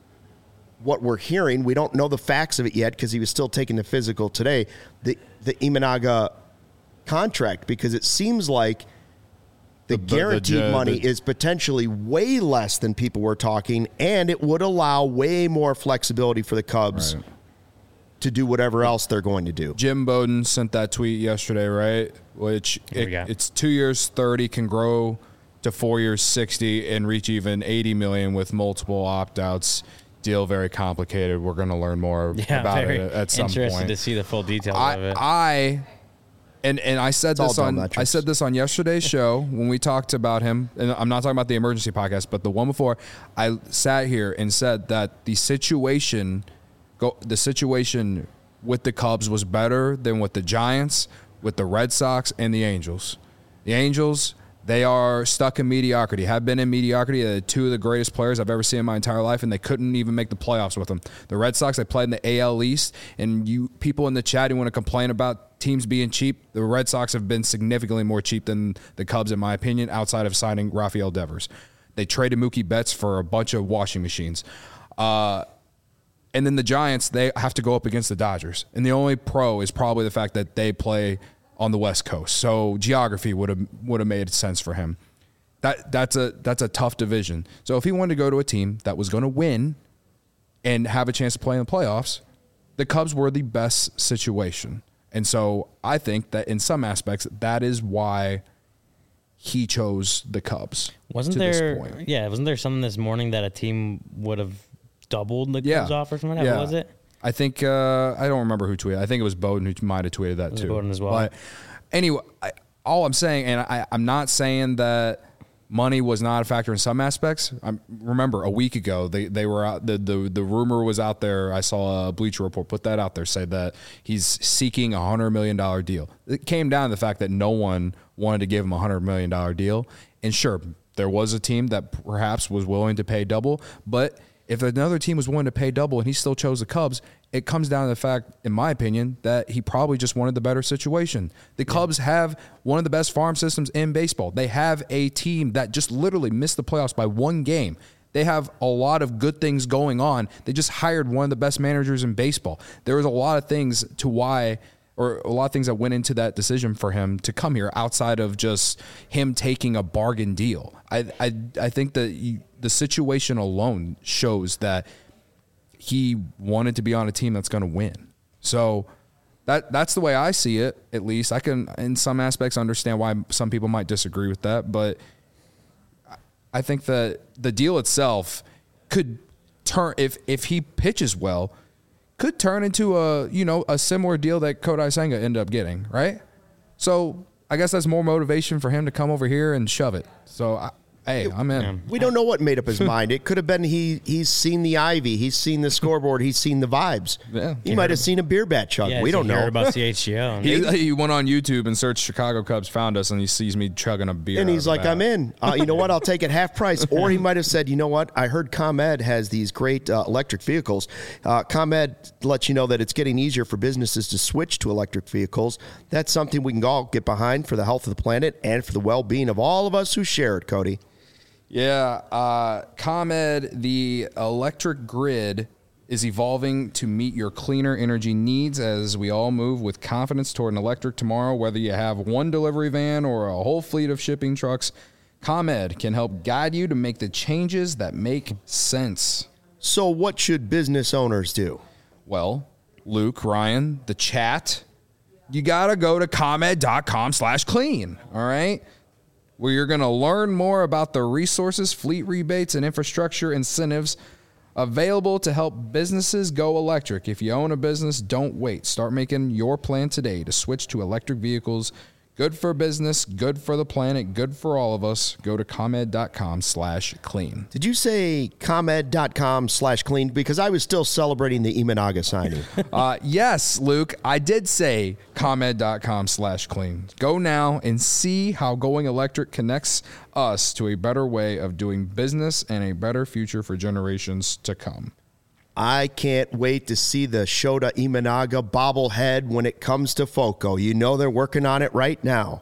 what we're hearing? We don't know the facts of it yet because he was still taking the physical today, the, the Imanaga contract, because it seems like the, The- the- guaranteed the- money the- is potentially way less than people were talking, and it would allow way more flexibility for the Cubs Right. to do whatever else they're going to do. Jim Bowden sent that tweet yesterday, right? Which Here we it, go. it's two years thirty, can grow to four years sixty, and reach even eighty million with multiple opt outs. Deal very complicated. We're going to learn more Yeah, about very it at some interested point. to see the full details of I, it. I and and I said all this on dumb metrics. I said this on yesterday's show when we talked about him, and I'm not talking about the emergency podcast, but the one before. I sat here and said that the situation, go the situation with the Cubs was better than with the Giants, with the Red Sox, and the Angels. The Angels, they are stuck in mediocrity, have been in mediocrity. They're two of the greatest players I've ever seen in my entire life, and they couldn't even make the playoffs with them. The Red Sox, they played in the A L East, and you people in the chat who want to complain about teams being cheap, the Red Sox have been significantly more cheap than the Cubs, in my opinion, outside of signing Rafael Devers. They traded Mookie Betts for a bunch of washing machines. Uh, and then the Giants, they have to go up against the Dodgers. And the only pro is probably the fact that they play on the West Coast. So geography would have would have made sense for him. That that's a that's a tough division. So if he wanted to go to a team that was going to win and have a chance to play in the playoffs, the Cubs were the best situation. And so I think that in some aspects, that is why he chose the Cubs. Wasn't to there? This point. Yeah, wasn't there something this morning that a team would have doubled the Yeah. Cubs offer from that? Yeah. What was it? I think uh, I don't remember who tweeted. I think it was Bowden who might have tweeted that was too. Bowden as well. But anyway, I, all I'm saying, and I, I'm not saying that money was not a factor in some aspects. I remember a week ago they they were out. The, the the rumor was out there. I saw a Bleacher Report put that out there, say that he's seeking a hundred million dollar deal. It came down to the fact that no one wanted to give him a hundred million dollar deal. And sure, there was a team that perhaps was willing to pay double, but if another team was willing to pay double and he still chose the Cubs, it comes down to the fact, in my opinion, that he probably just wanted the better situation. The Cubs have one of the best farm systems in baseball. They have a team that just literally missed the playoffs by one game. They have a lot of good things going on. They just hired one of the best managers in baseball. There was a lot of things to why, or a lot of things that went into that decision for him to come here outside of just him taking a bargain deal. I I, I think that you, the situation alone shows that he wanted to be on a team that's going to win. So that that's the way I see it, at least. I can, in some aspects, understand why some people might disagree with that, but I think that the deal itself could turn, if if he pitches well, could turn into a, you know, a similar deal that Kodai Senga ended up getting, right? So I guess that's more motivation for him to come over here and shove it. So I, hey, I'm in. We don't know what made up his mind. It could have been he he's seen the ivy, he's seen the scoreboard, he's seen the vibes. Yeah. He might have seen a beer bat chug. Yeah, we so don't he heard know. about C H G O. He, he went on YouTube and searched Chicago Cubs, found us, and he sees me chugging a beer. And out he's of a like, bat. I'm in. Uh, you know what? I'll take it half price. Or he might have said, you know what? I heard ComEd has these great uh, electric vehicles. Uh, ComEd lets you know that it's getting easier for businesses to switch to electric vehicles. That's something we can all get behind for the health of the planet and for the well-being of all of us who share it, Cody. Yeah, uh, ComEd, the electric grid is evolving to meet your cleaner energy needs as we all move with confidence toward an electric tomorrow. Whether you have one delivery van or a whole fleet of shipping trucks, ComEd can help guide you to make the changes that make sense. So what should business owners do? Well, Luke, Ryan, the chat, you got to go to ComEd.com slash clean, all right? Where you're going to learn more about the resources, fleet rebates, and infrastructure incentives available to help businesses go electric. If you own a business, don't wait. Start making your plan today to switch to electric vehicles. Good for business, good for the planet, good for all of us. Go to ComEd.com slash clean. Did you say ComEd.com slash clean? Because I was still celebrating the Imanaga signing. Uh, yes, Luke, I did say ComEd.com slash clean. Go now and see how going electric connects us to a better way of doing business and a better future for generations to come. I can't wait to see the Shota Imanaga bobblehead when it comes to FOCO. You know they're working on it right now.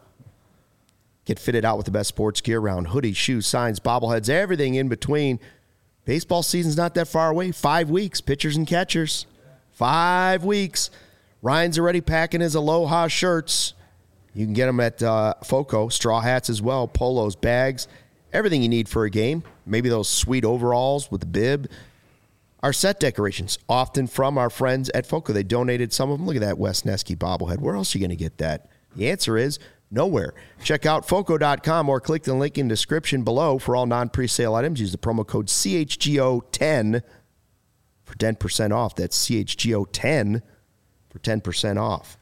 Get fitted out with the best sports gear around hoodies, shoes, signs, bobbleheads, everything in between. Baseball season's not that far away. Five weeks, pitchers and catchers. Five weeks. Ryan's already packing his Aloha shirts. You can get them at uh, FOCO. Straw hats as well, polos, bags, everything you need for a game. Maybe those sweet overalls with the bib. Our set decorations, often from our friends at FOCO. They donated some of them. Look at that Wes Nesky bobblehead. Where else are you going to get that? The answer is nowhere. Check out foco dot com or click the link in the description below for all non-presale items. Use the promo code C H G O ten for ten percent off. That's C H G O ten for ten percent off.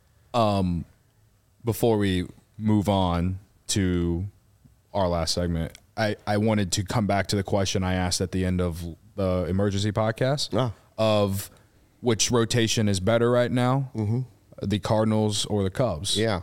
Um, before we move on to our last segment, I, I wanted to come back to the question I asked at the end of the emergency podcast Oh. of which rotation is better right now, mm-hmm. the Cardinals or the Cubs. Yeah.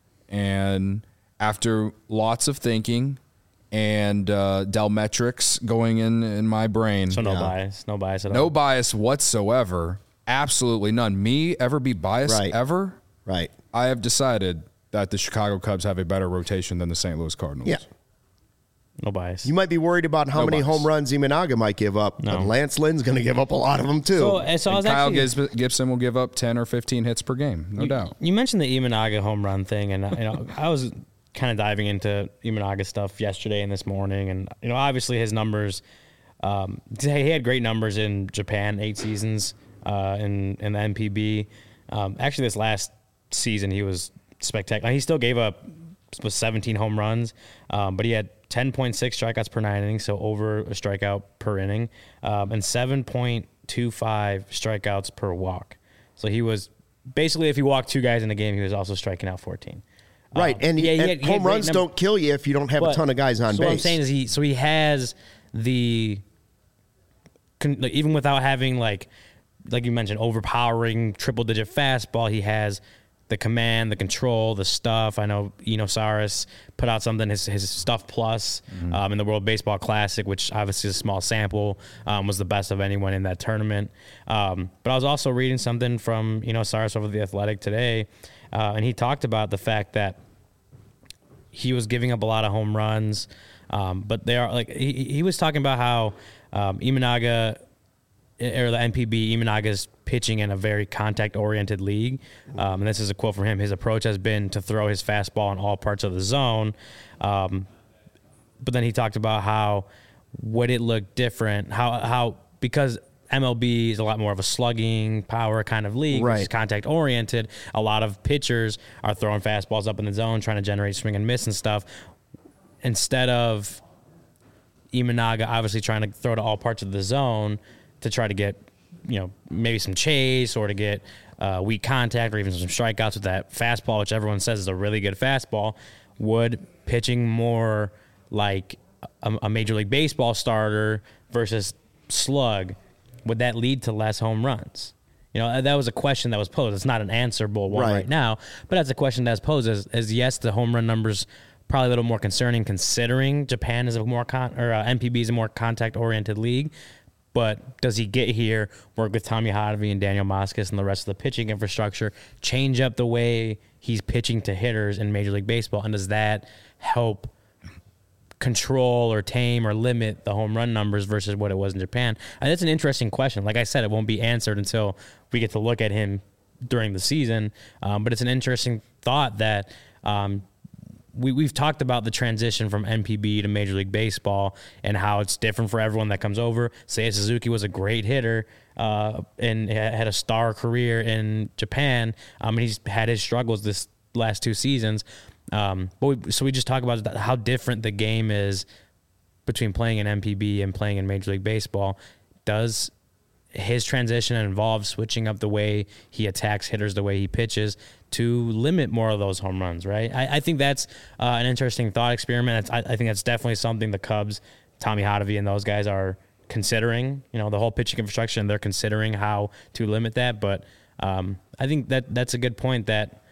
And after lots of thinking and uh, Delmetrics going in, in my brain. So no Yeah. bias. No bias at all. No bias whatsoever. Absolutely none. Me ever be biased Right. ever? Right. I have decided that the Chicago Cubs have a better rotation than the Saint Louis Cardinals. Yeah. No bias. You might be worried about how No many bias. home runs Imanaga might give up. No. But Lance Lynn's going to give up a lot of them, too. So, uh, so I And was Kyle actually, Gibs- Gibson will give up ten or fifteen hits per game, no you, doubt. You mentioned the Imanaga home run thing, and you know, I was kind of diving into Imanaga stuff yesterday and this morning, and you know, obviously his numbers. Um, he had great numbers in Japan, eight seasons uh, in in the M P B. Um, actually, this last season he was spectacular. He still gave up was seventeen home runs, um, but he had ten point six strikeouts per nine innings, so over a strikeout per inning, um, and seven point two five strikeouts per walk. So he was basically, if he walked two guys in a game, he was also striking out fourteen. Right, Um, and, yeah, he and had- he had home great runs number- don't kill you if you don't have a But- ton of guys on so base. what I'm saying is he, so he has the, con, like, even without having like, like you mentioned, overpowering triple digit fastball, he has the command, the control, the stuff. I know Eno Saris put out something, his his stuff plus Mm-hmm. um, in the World Baseball Classic, which obviously is a small sample, um, was the best of anyone in that tournament. Um, but I was also reading something from Eno Saris over The Athletic today, uh, and he talked about the fact that he was giving up a lot of home runs, um, but they are like he, he was talking about how um, Imanaga or the N P B, Imanaga's pitching in a very contact-oriented league. Um, and this is a quote from him. His approach has been to throw his fastball in all parts of the zone. Um, but then he talked about how would it look different, how how because M L B is a lot more of a slugging power kind of league, which is Right. contact-oriented. A lot of pitchers are throwing fastballs up in the zone, trying to generate swing and miss and stuff. Instead of Imanaga obviously trying to throw to all parts of the zone to try to get, you know, maybe some chase or to get uh, weak contact or even some strikeouts with that fastball, which everyone says is a really good fastball, would pitching more like a, a Major League Baseball starter versus slug, would that lead to less home runs? You know, that was a question that was posed. It's not an answerable one Right. right now, but that's a question that's posed as, as yes, the home run numbers probably a little more concerning considering Japan is a more con or uh, M P B is a more contact oriented league. But does he get here, work with Tommy Hotovy and Daniel Moskos and the rest of the pitching infrastructure, change up the way he's pitching to hitters in Major League Baseball, and does that help control or tame or limit the home run numbers versus what it was in Japan? And that's an interesting question. Like I said, it won't be answered until we get to look at him during the season. Um, but it's an interesting thought that um, we, we've talked about the transition from M P B to Major League Baseball and how it's different for everyone that comes over. Seiya Suzuki was a great hitter uh, and had a star career in Japan. Um, and he's had his struggles this last two seasons. Um, but we, so we just talk about how different the game is between playing in M P B and playing in Major League Baseball. Does his transition involve switching up the way he attacks hitters, the way he pitches, to limit more of those home runs, right? I, I think that's uh, an interesting thought experiment. I, I think that's definitely something the Cubs, Tommy Hotovy and those guys are considering. You know, the whole pitching infrastructure, and they're considering how to limit that. But um, I think that that's a good point that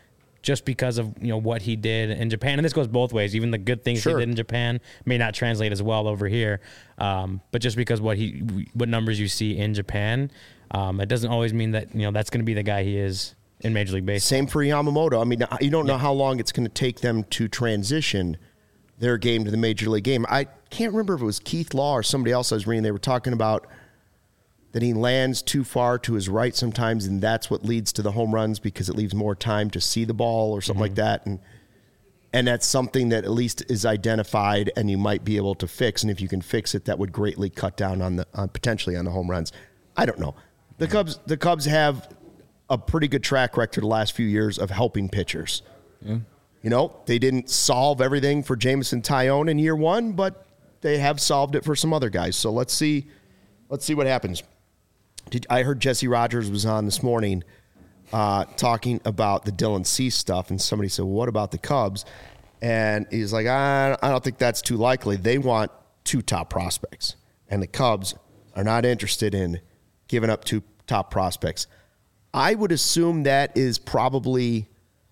just because of you know what he did in Japan. And this goes both ways. Even the good things Sure. he did in Japan may not translate as well over here. Um, but just because what he what numbers you see in Japan, um, it doesn't always mean that you know that's going to be the guy he is in Major League Baseball. Same for Yamamoto. I mean, you don't know how long it's going to take them to transition their game to the Major League game. I can't remember if it was Keith Law or somebody else I was reading. They were talking about that he lands too far to his right sometimes, and that's what leads to the home runs because it leaves more time to see the ball or something mm-hmm. like that. And and that's something that at least is identified and you might be able to fix. And if you can fix it, that would greatly cut down on the on potentially on the home runs. I don't know. The Cubs the Cubs have a pretty good track record the last few years of helping pitchers. Yeah. You know, they didn't solve everything for Jameson Taillon in year one, but they have solved it for some other guys. So let's see let's see what happens. Did, I heard Jesse Rogers was on this morning uh, talking about the Dylan Cease stuff, and somebody said, well, what about the Cubs? And he's like, I, I don't think that's too likely. They want two top prospects, and the Cubs are not interested in giving up two top prospects. I would assume that is probably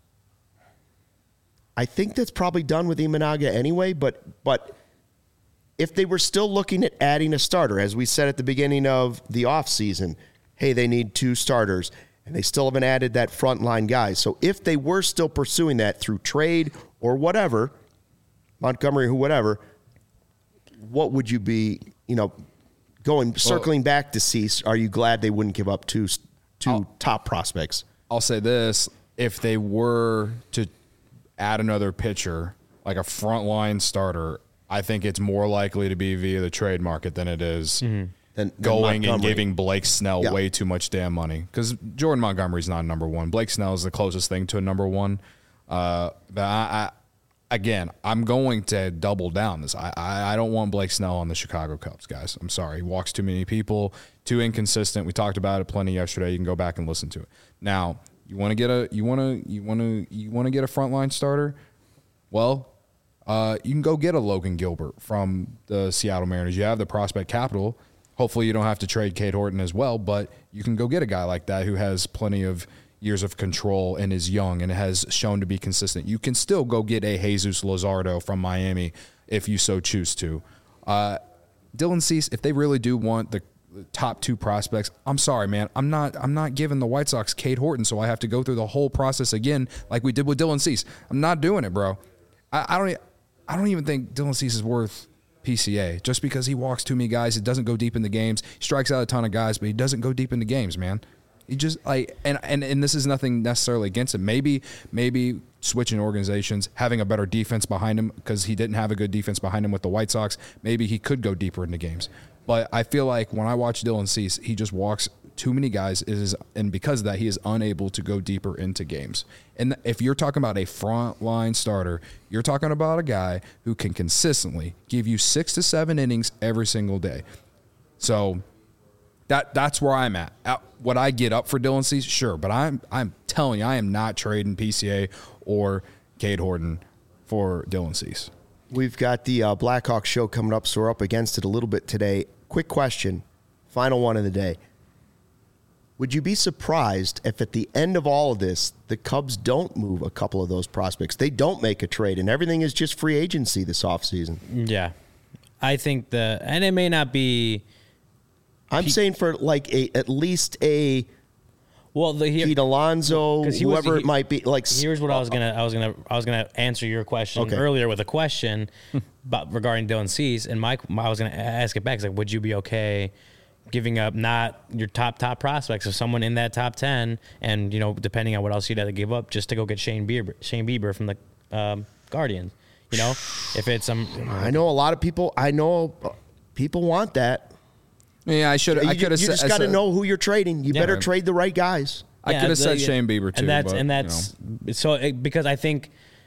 – I think that's probably done with Imanaga anyway, but but – if they were still looking at adding a starter, as we said at the beginning of the offseason, hey, they need two starters, and they still haven't added that frontline guy. So if they were still pursuing that through trade or whatever, Montgomery, who whatever, what would you be, you know, going, circling well, back to Cease, are you glad they wouldn't give up two, two I'll, top prospects? I'll say this, if they were to add another pitcher, like a frontline starter, I think it's more likely to be via the trade market than it is mm-hmm. than, going than and giving Blake Snell yeah. way too much damn money. Because Jordan Montgomery's not number one. Blake Snell is the closest thing to a number one. Uh, but I, I, again, I'm going to double down this. I, I, I don't want Blake Snell on the Chicago Cubs, guys. I'm sorry. He walks too many people, too inconsistent. We talked about it plenty yesterday. You can go back and listen to it. Now, you want to get a you want to you want to you want to get a frontline starter? Well, Uh, you can go get a Logan Gilbert from the Seattle Mariners. You have the prospect capital. Hopefully you don't have to trade Cade Horton as well, but you can go get a guy like that who has plenty of years of control and is young and has shown to be consistent. You can still go get a Jesus Luzardo from Miami if you so choose to. Uh, Dylan Cease, if they really do want the top two prospects, I'm sorry, man. I'm not I'm not giving the White Sox Cade Horton, so I have to go through the whole process again like we did with Dylan Cease. I'm not doing it, bro. I, I don't I don't even think Dylan Cease is worth P C A just because he walks too many guys. He doesn't go deep in the games. He strikes out a ton of guys, but he doesn't go deep into games, man. He just like and, and and this is nothing necessarily against him. Maybe maybe switching organizations, having a better defense behind him because he didn't have a good defense behind him with the White Sox. Maybe he could go deeper into games. But I feel like when I watch Dylan Cease, he just walks too many guys, is and because of that, he is unable to go deeper into games. And if you're talking about a frontline starter, you're talking about a guy who can consistently give you six to seven innings every single day. So that that's where I'm at. Would I get up for Dylan Cease? Sure, but I'm I'm telling you, I am not trading P C A or Cade Horton for Dylan Cease. We've got the uh, Blackhawks show coming up, so we're up against it a little bit today. Quick question, final one of the day. Would you be surprised if at the end of all of this, the Cubs don't move a couple of those prospects? They don't make a trade, and everything is just free agency this offseason. Yeah. I think the – and it may not be – I'm Pete, saying for like a at least a well, the, Pete Alonso, he whoever was, he, it might be. Like here's what uh, I was gonna I was gonna I was gonna answer your question okay. earlier with a question about regarding Dylan Cease, and Mike I was gonna ask it back. It's like, would you be okay giving up not your top top prospects or someone in that top ten, and you know depending on what else you'd have to give up just to go get Shane Bieber Shane Bieber from the um, Guardians? You know, if it's some. Um, I know a lot of people. I know people want that. Yeah, I should. I could have. You just got to know who you're trading. You yeah, better trade the right guys. I yeah, could have said yeah. Shane Bieber too, and that's but, and that's you know. so it, because I think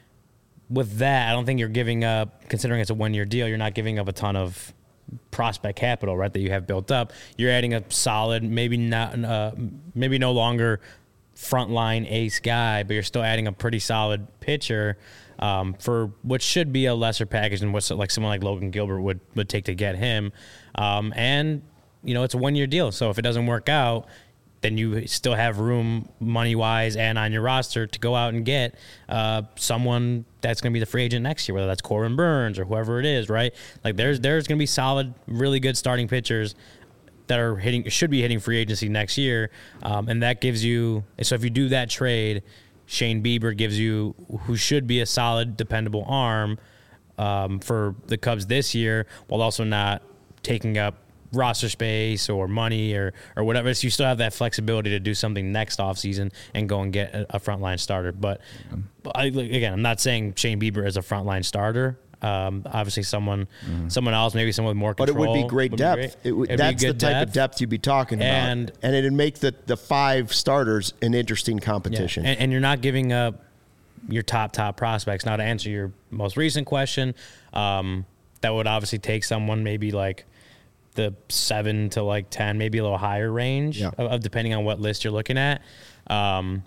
with that, I don't think you're giving up. Considering it's a one year deal, you're not giving up a ton of prospect capital, right? That you have built up. You're adding a solid, maybe not, uh, maybe no longer frontline ace guy, but you're still adding a pretty solid pitcher. Um, for what should be a lesser package than what like someone like Logan Gilbert would, would take to get him. Um, and, you know, it's a one-year deal. So if it doesn't work out, then you still have room money-wise and on your roster to go out and get uh, someone that's going to be the free agent next year, whether that's Corbin Burns or whoever it is, right? Like there's there's going to be solid, really good starting pitchers that are hitting should be hitting free agency next year, um, and that gives you. So if you do that trade, Shane Bieber gives you who should be a solid, dependable arm um, for the Cubs this year, while also not taking up roster space or money or or whatever. So you still have that flexibility to do something next offseason and go and get a, a frontline starter. But, yeah. but I, again, I'm not saying Shane Bieber is a frontline starter. Um, obviously, someone mm-hmm. someone else, maybe someone with more control. But it would be great depth. Be great. It would, that's the type depth. of depth you'd be talking about. And, and it'd make the, the five starters an interesting competition. Yeah. And, and you're not giving up your top, top prospects. Now, to answer your most recent question, um, that would obviously take someone maybe like the seven to like ten, maybe a little higher range, yeah. of, of depending on what list you're looking at. Um,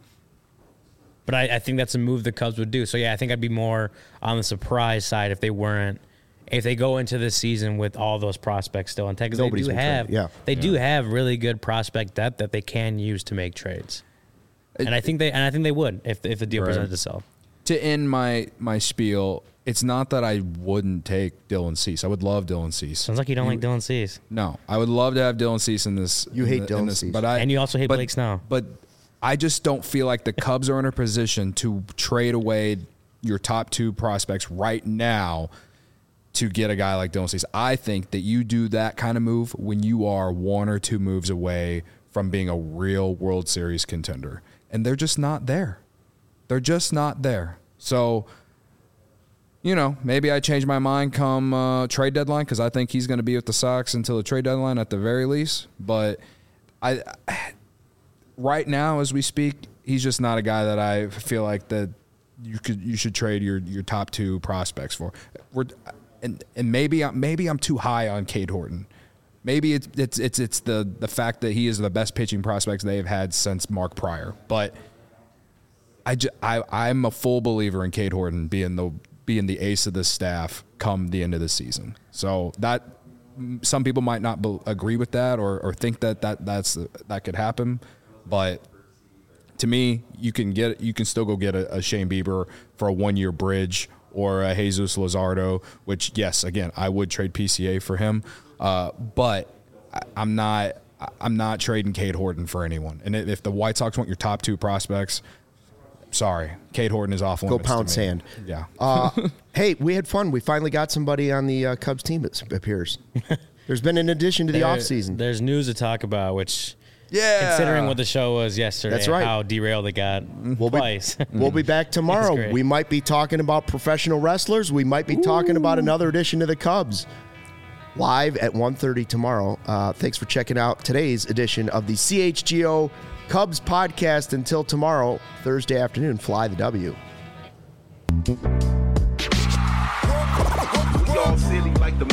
but I, I think that's a move the Cubs would do. So yeah, I think I'd be more on the surprise side if they weren't, if they go into this season with all those prospects still intact. Because they do have, yeah. they yeah. do have really good prospect depth that they can use to make trades. It, and I think they, and I think they would if if the deal right. presented itself. To end my my spiel. It's not that I wouldn't take Dylan Cease. I would love Dylan Cease. Sounds like you don't you, like Dylan Cease. No, I would love to have Dylan Cease in this. You in hate the, Dylan this, Cease, but I and you also hate but, Blake Snell. But I just don't feel like the Cubs are in a position to trade away your top two prospects right now to get a guy like Dylan Cease. I think that you do that kind of move when you are one or two moves away from being a real World Series contender, and they're just not there. They're just not there. So. You know, maybe I change my mind come uh, trade deadline because I think he's going to be with the Sox until the trade deadline at the very least. But I, right now, as we speak, he's just not a guy that I feel like that you could you should trade your, your top two prospects for. We're, and and maybe I'm, maybe I'm too high on Cade Horton. Maybe it's it's it's it's the the fact that he is the best pitching prospects they have had since Mark Pryor. But I, just, I I'm a full believer in Cade Horton being the being the ace of the staff come the end of the season. So that some people might not be, agree with that or, or think that, that that's that could happen, but to me, you can get you can still go get a, a Shane Bieber for a one year bridge or a Jesus Luzardo, which yes, again, I would trade P C A for him, uh, but I, I'm not I'm not trading Cade Horton for anyone. And if the White Sox want your top two prospects. Sorry, Cade Horton is off limits. Go pound sand. Yeah. uh, hey, we had fun. We finally got somebody on the uh, Cubs team, it appears. There's been an addition to the there, offseason. There's news to talk about, which, yeah, considering what the show was yesterday, that's right. how derailed it got we'll twice. Be, we'll be back tomorrow. We might be talking about professional wrestlers. We might be Ooh. talking about another edition of the Cubs. Live at one thirty tomorrow. Uh, thanks for checking out today's edition of the C H G O Cubs podcast. Until tomorrow, Thursday afternoon, fly the W. We all silly like the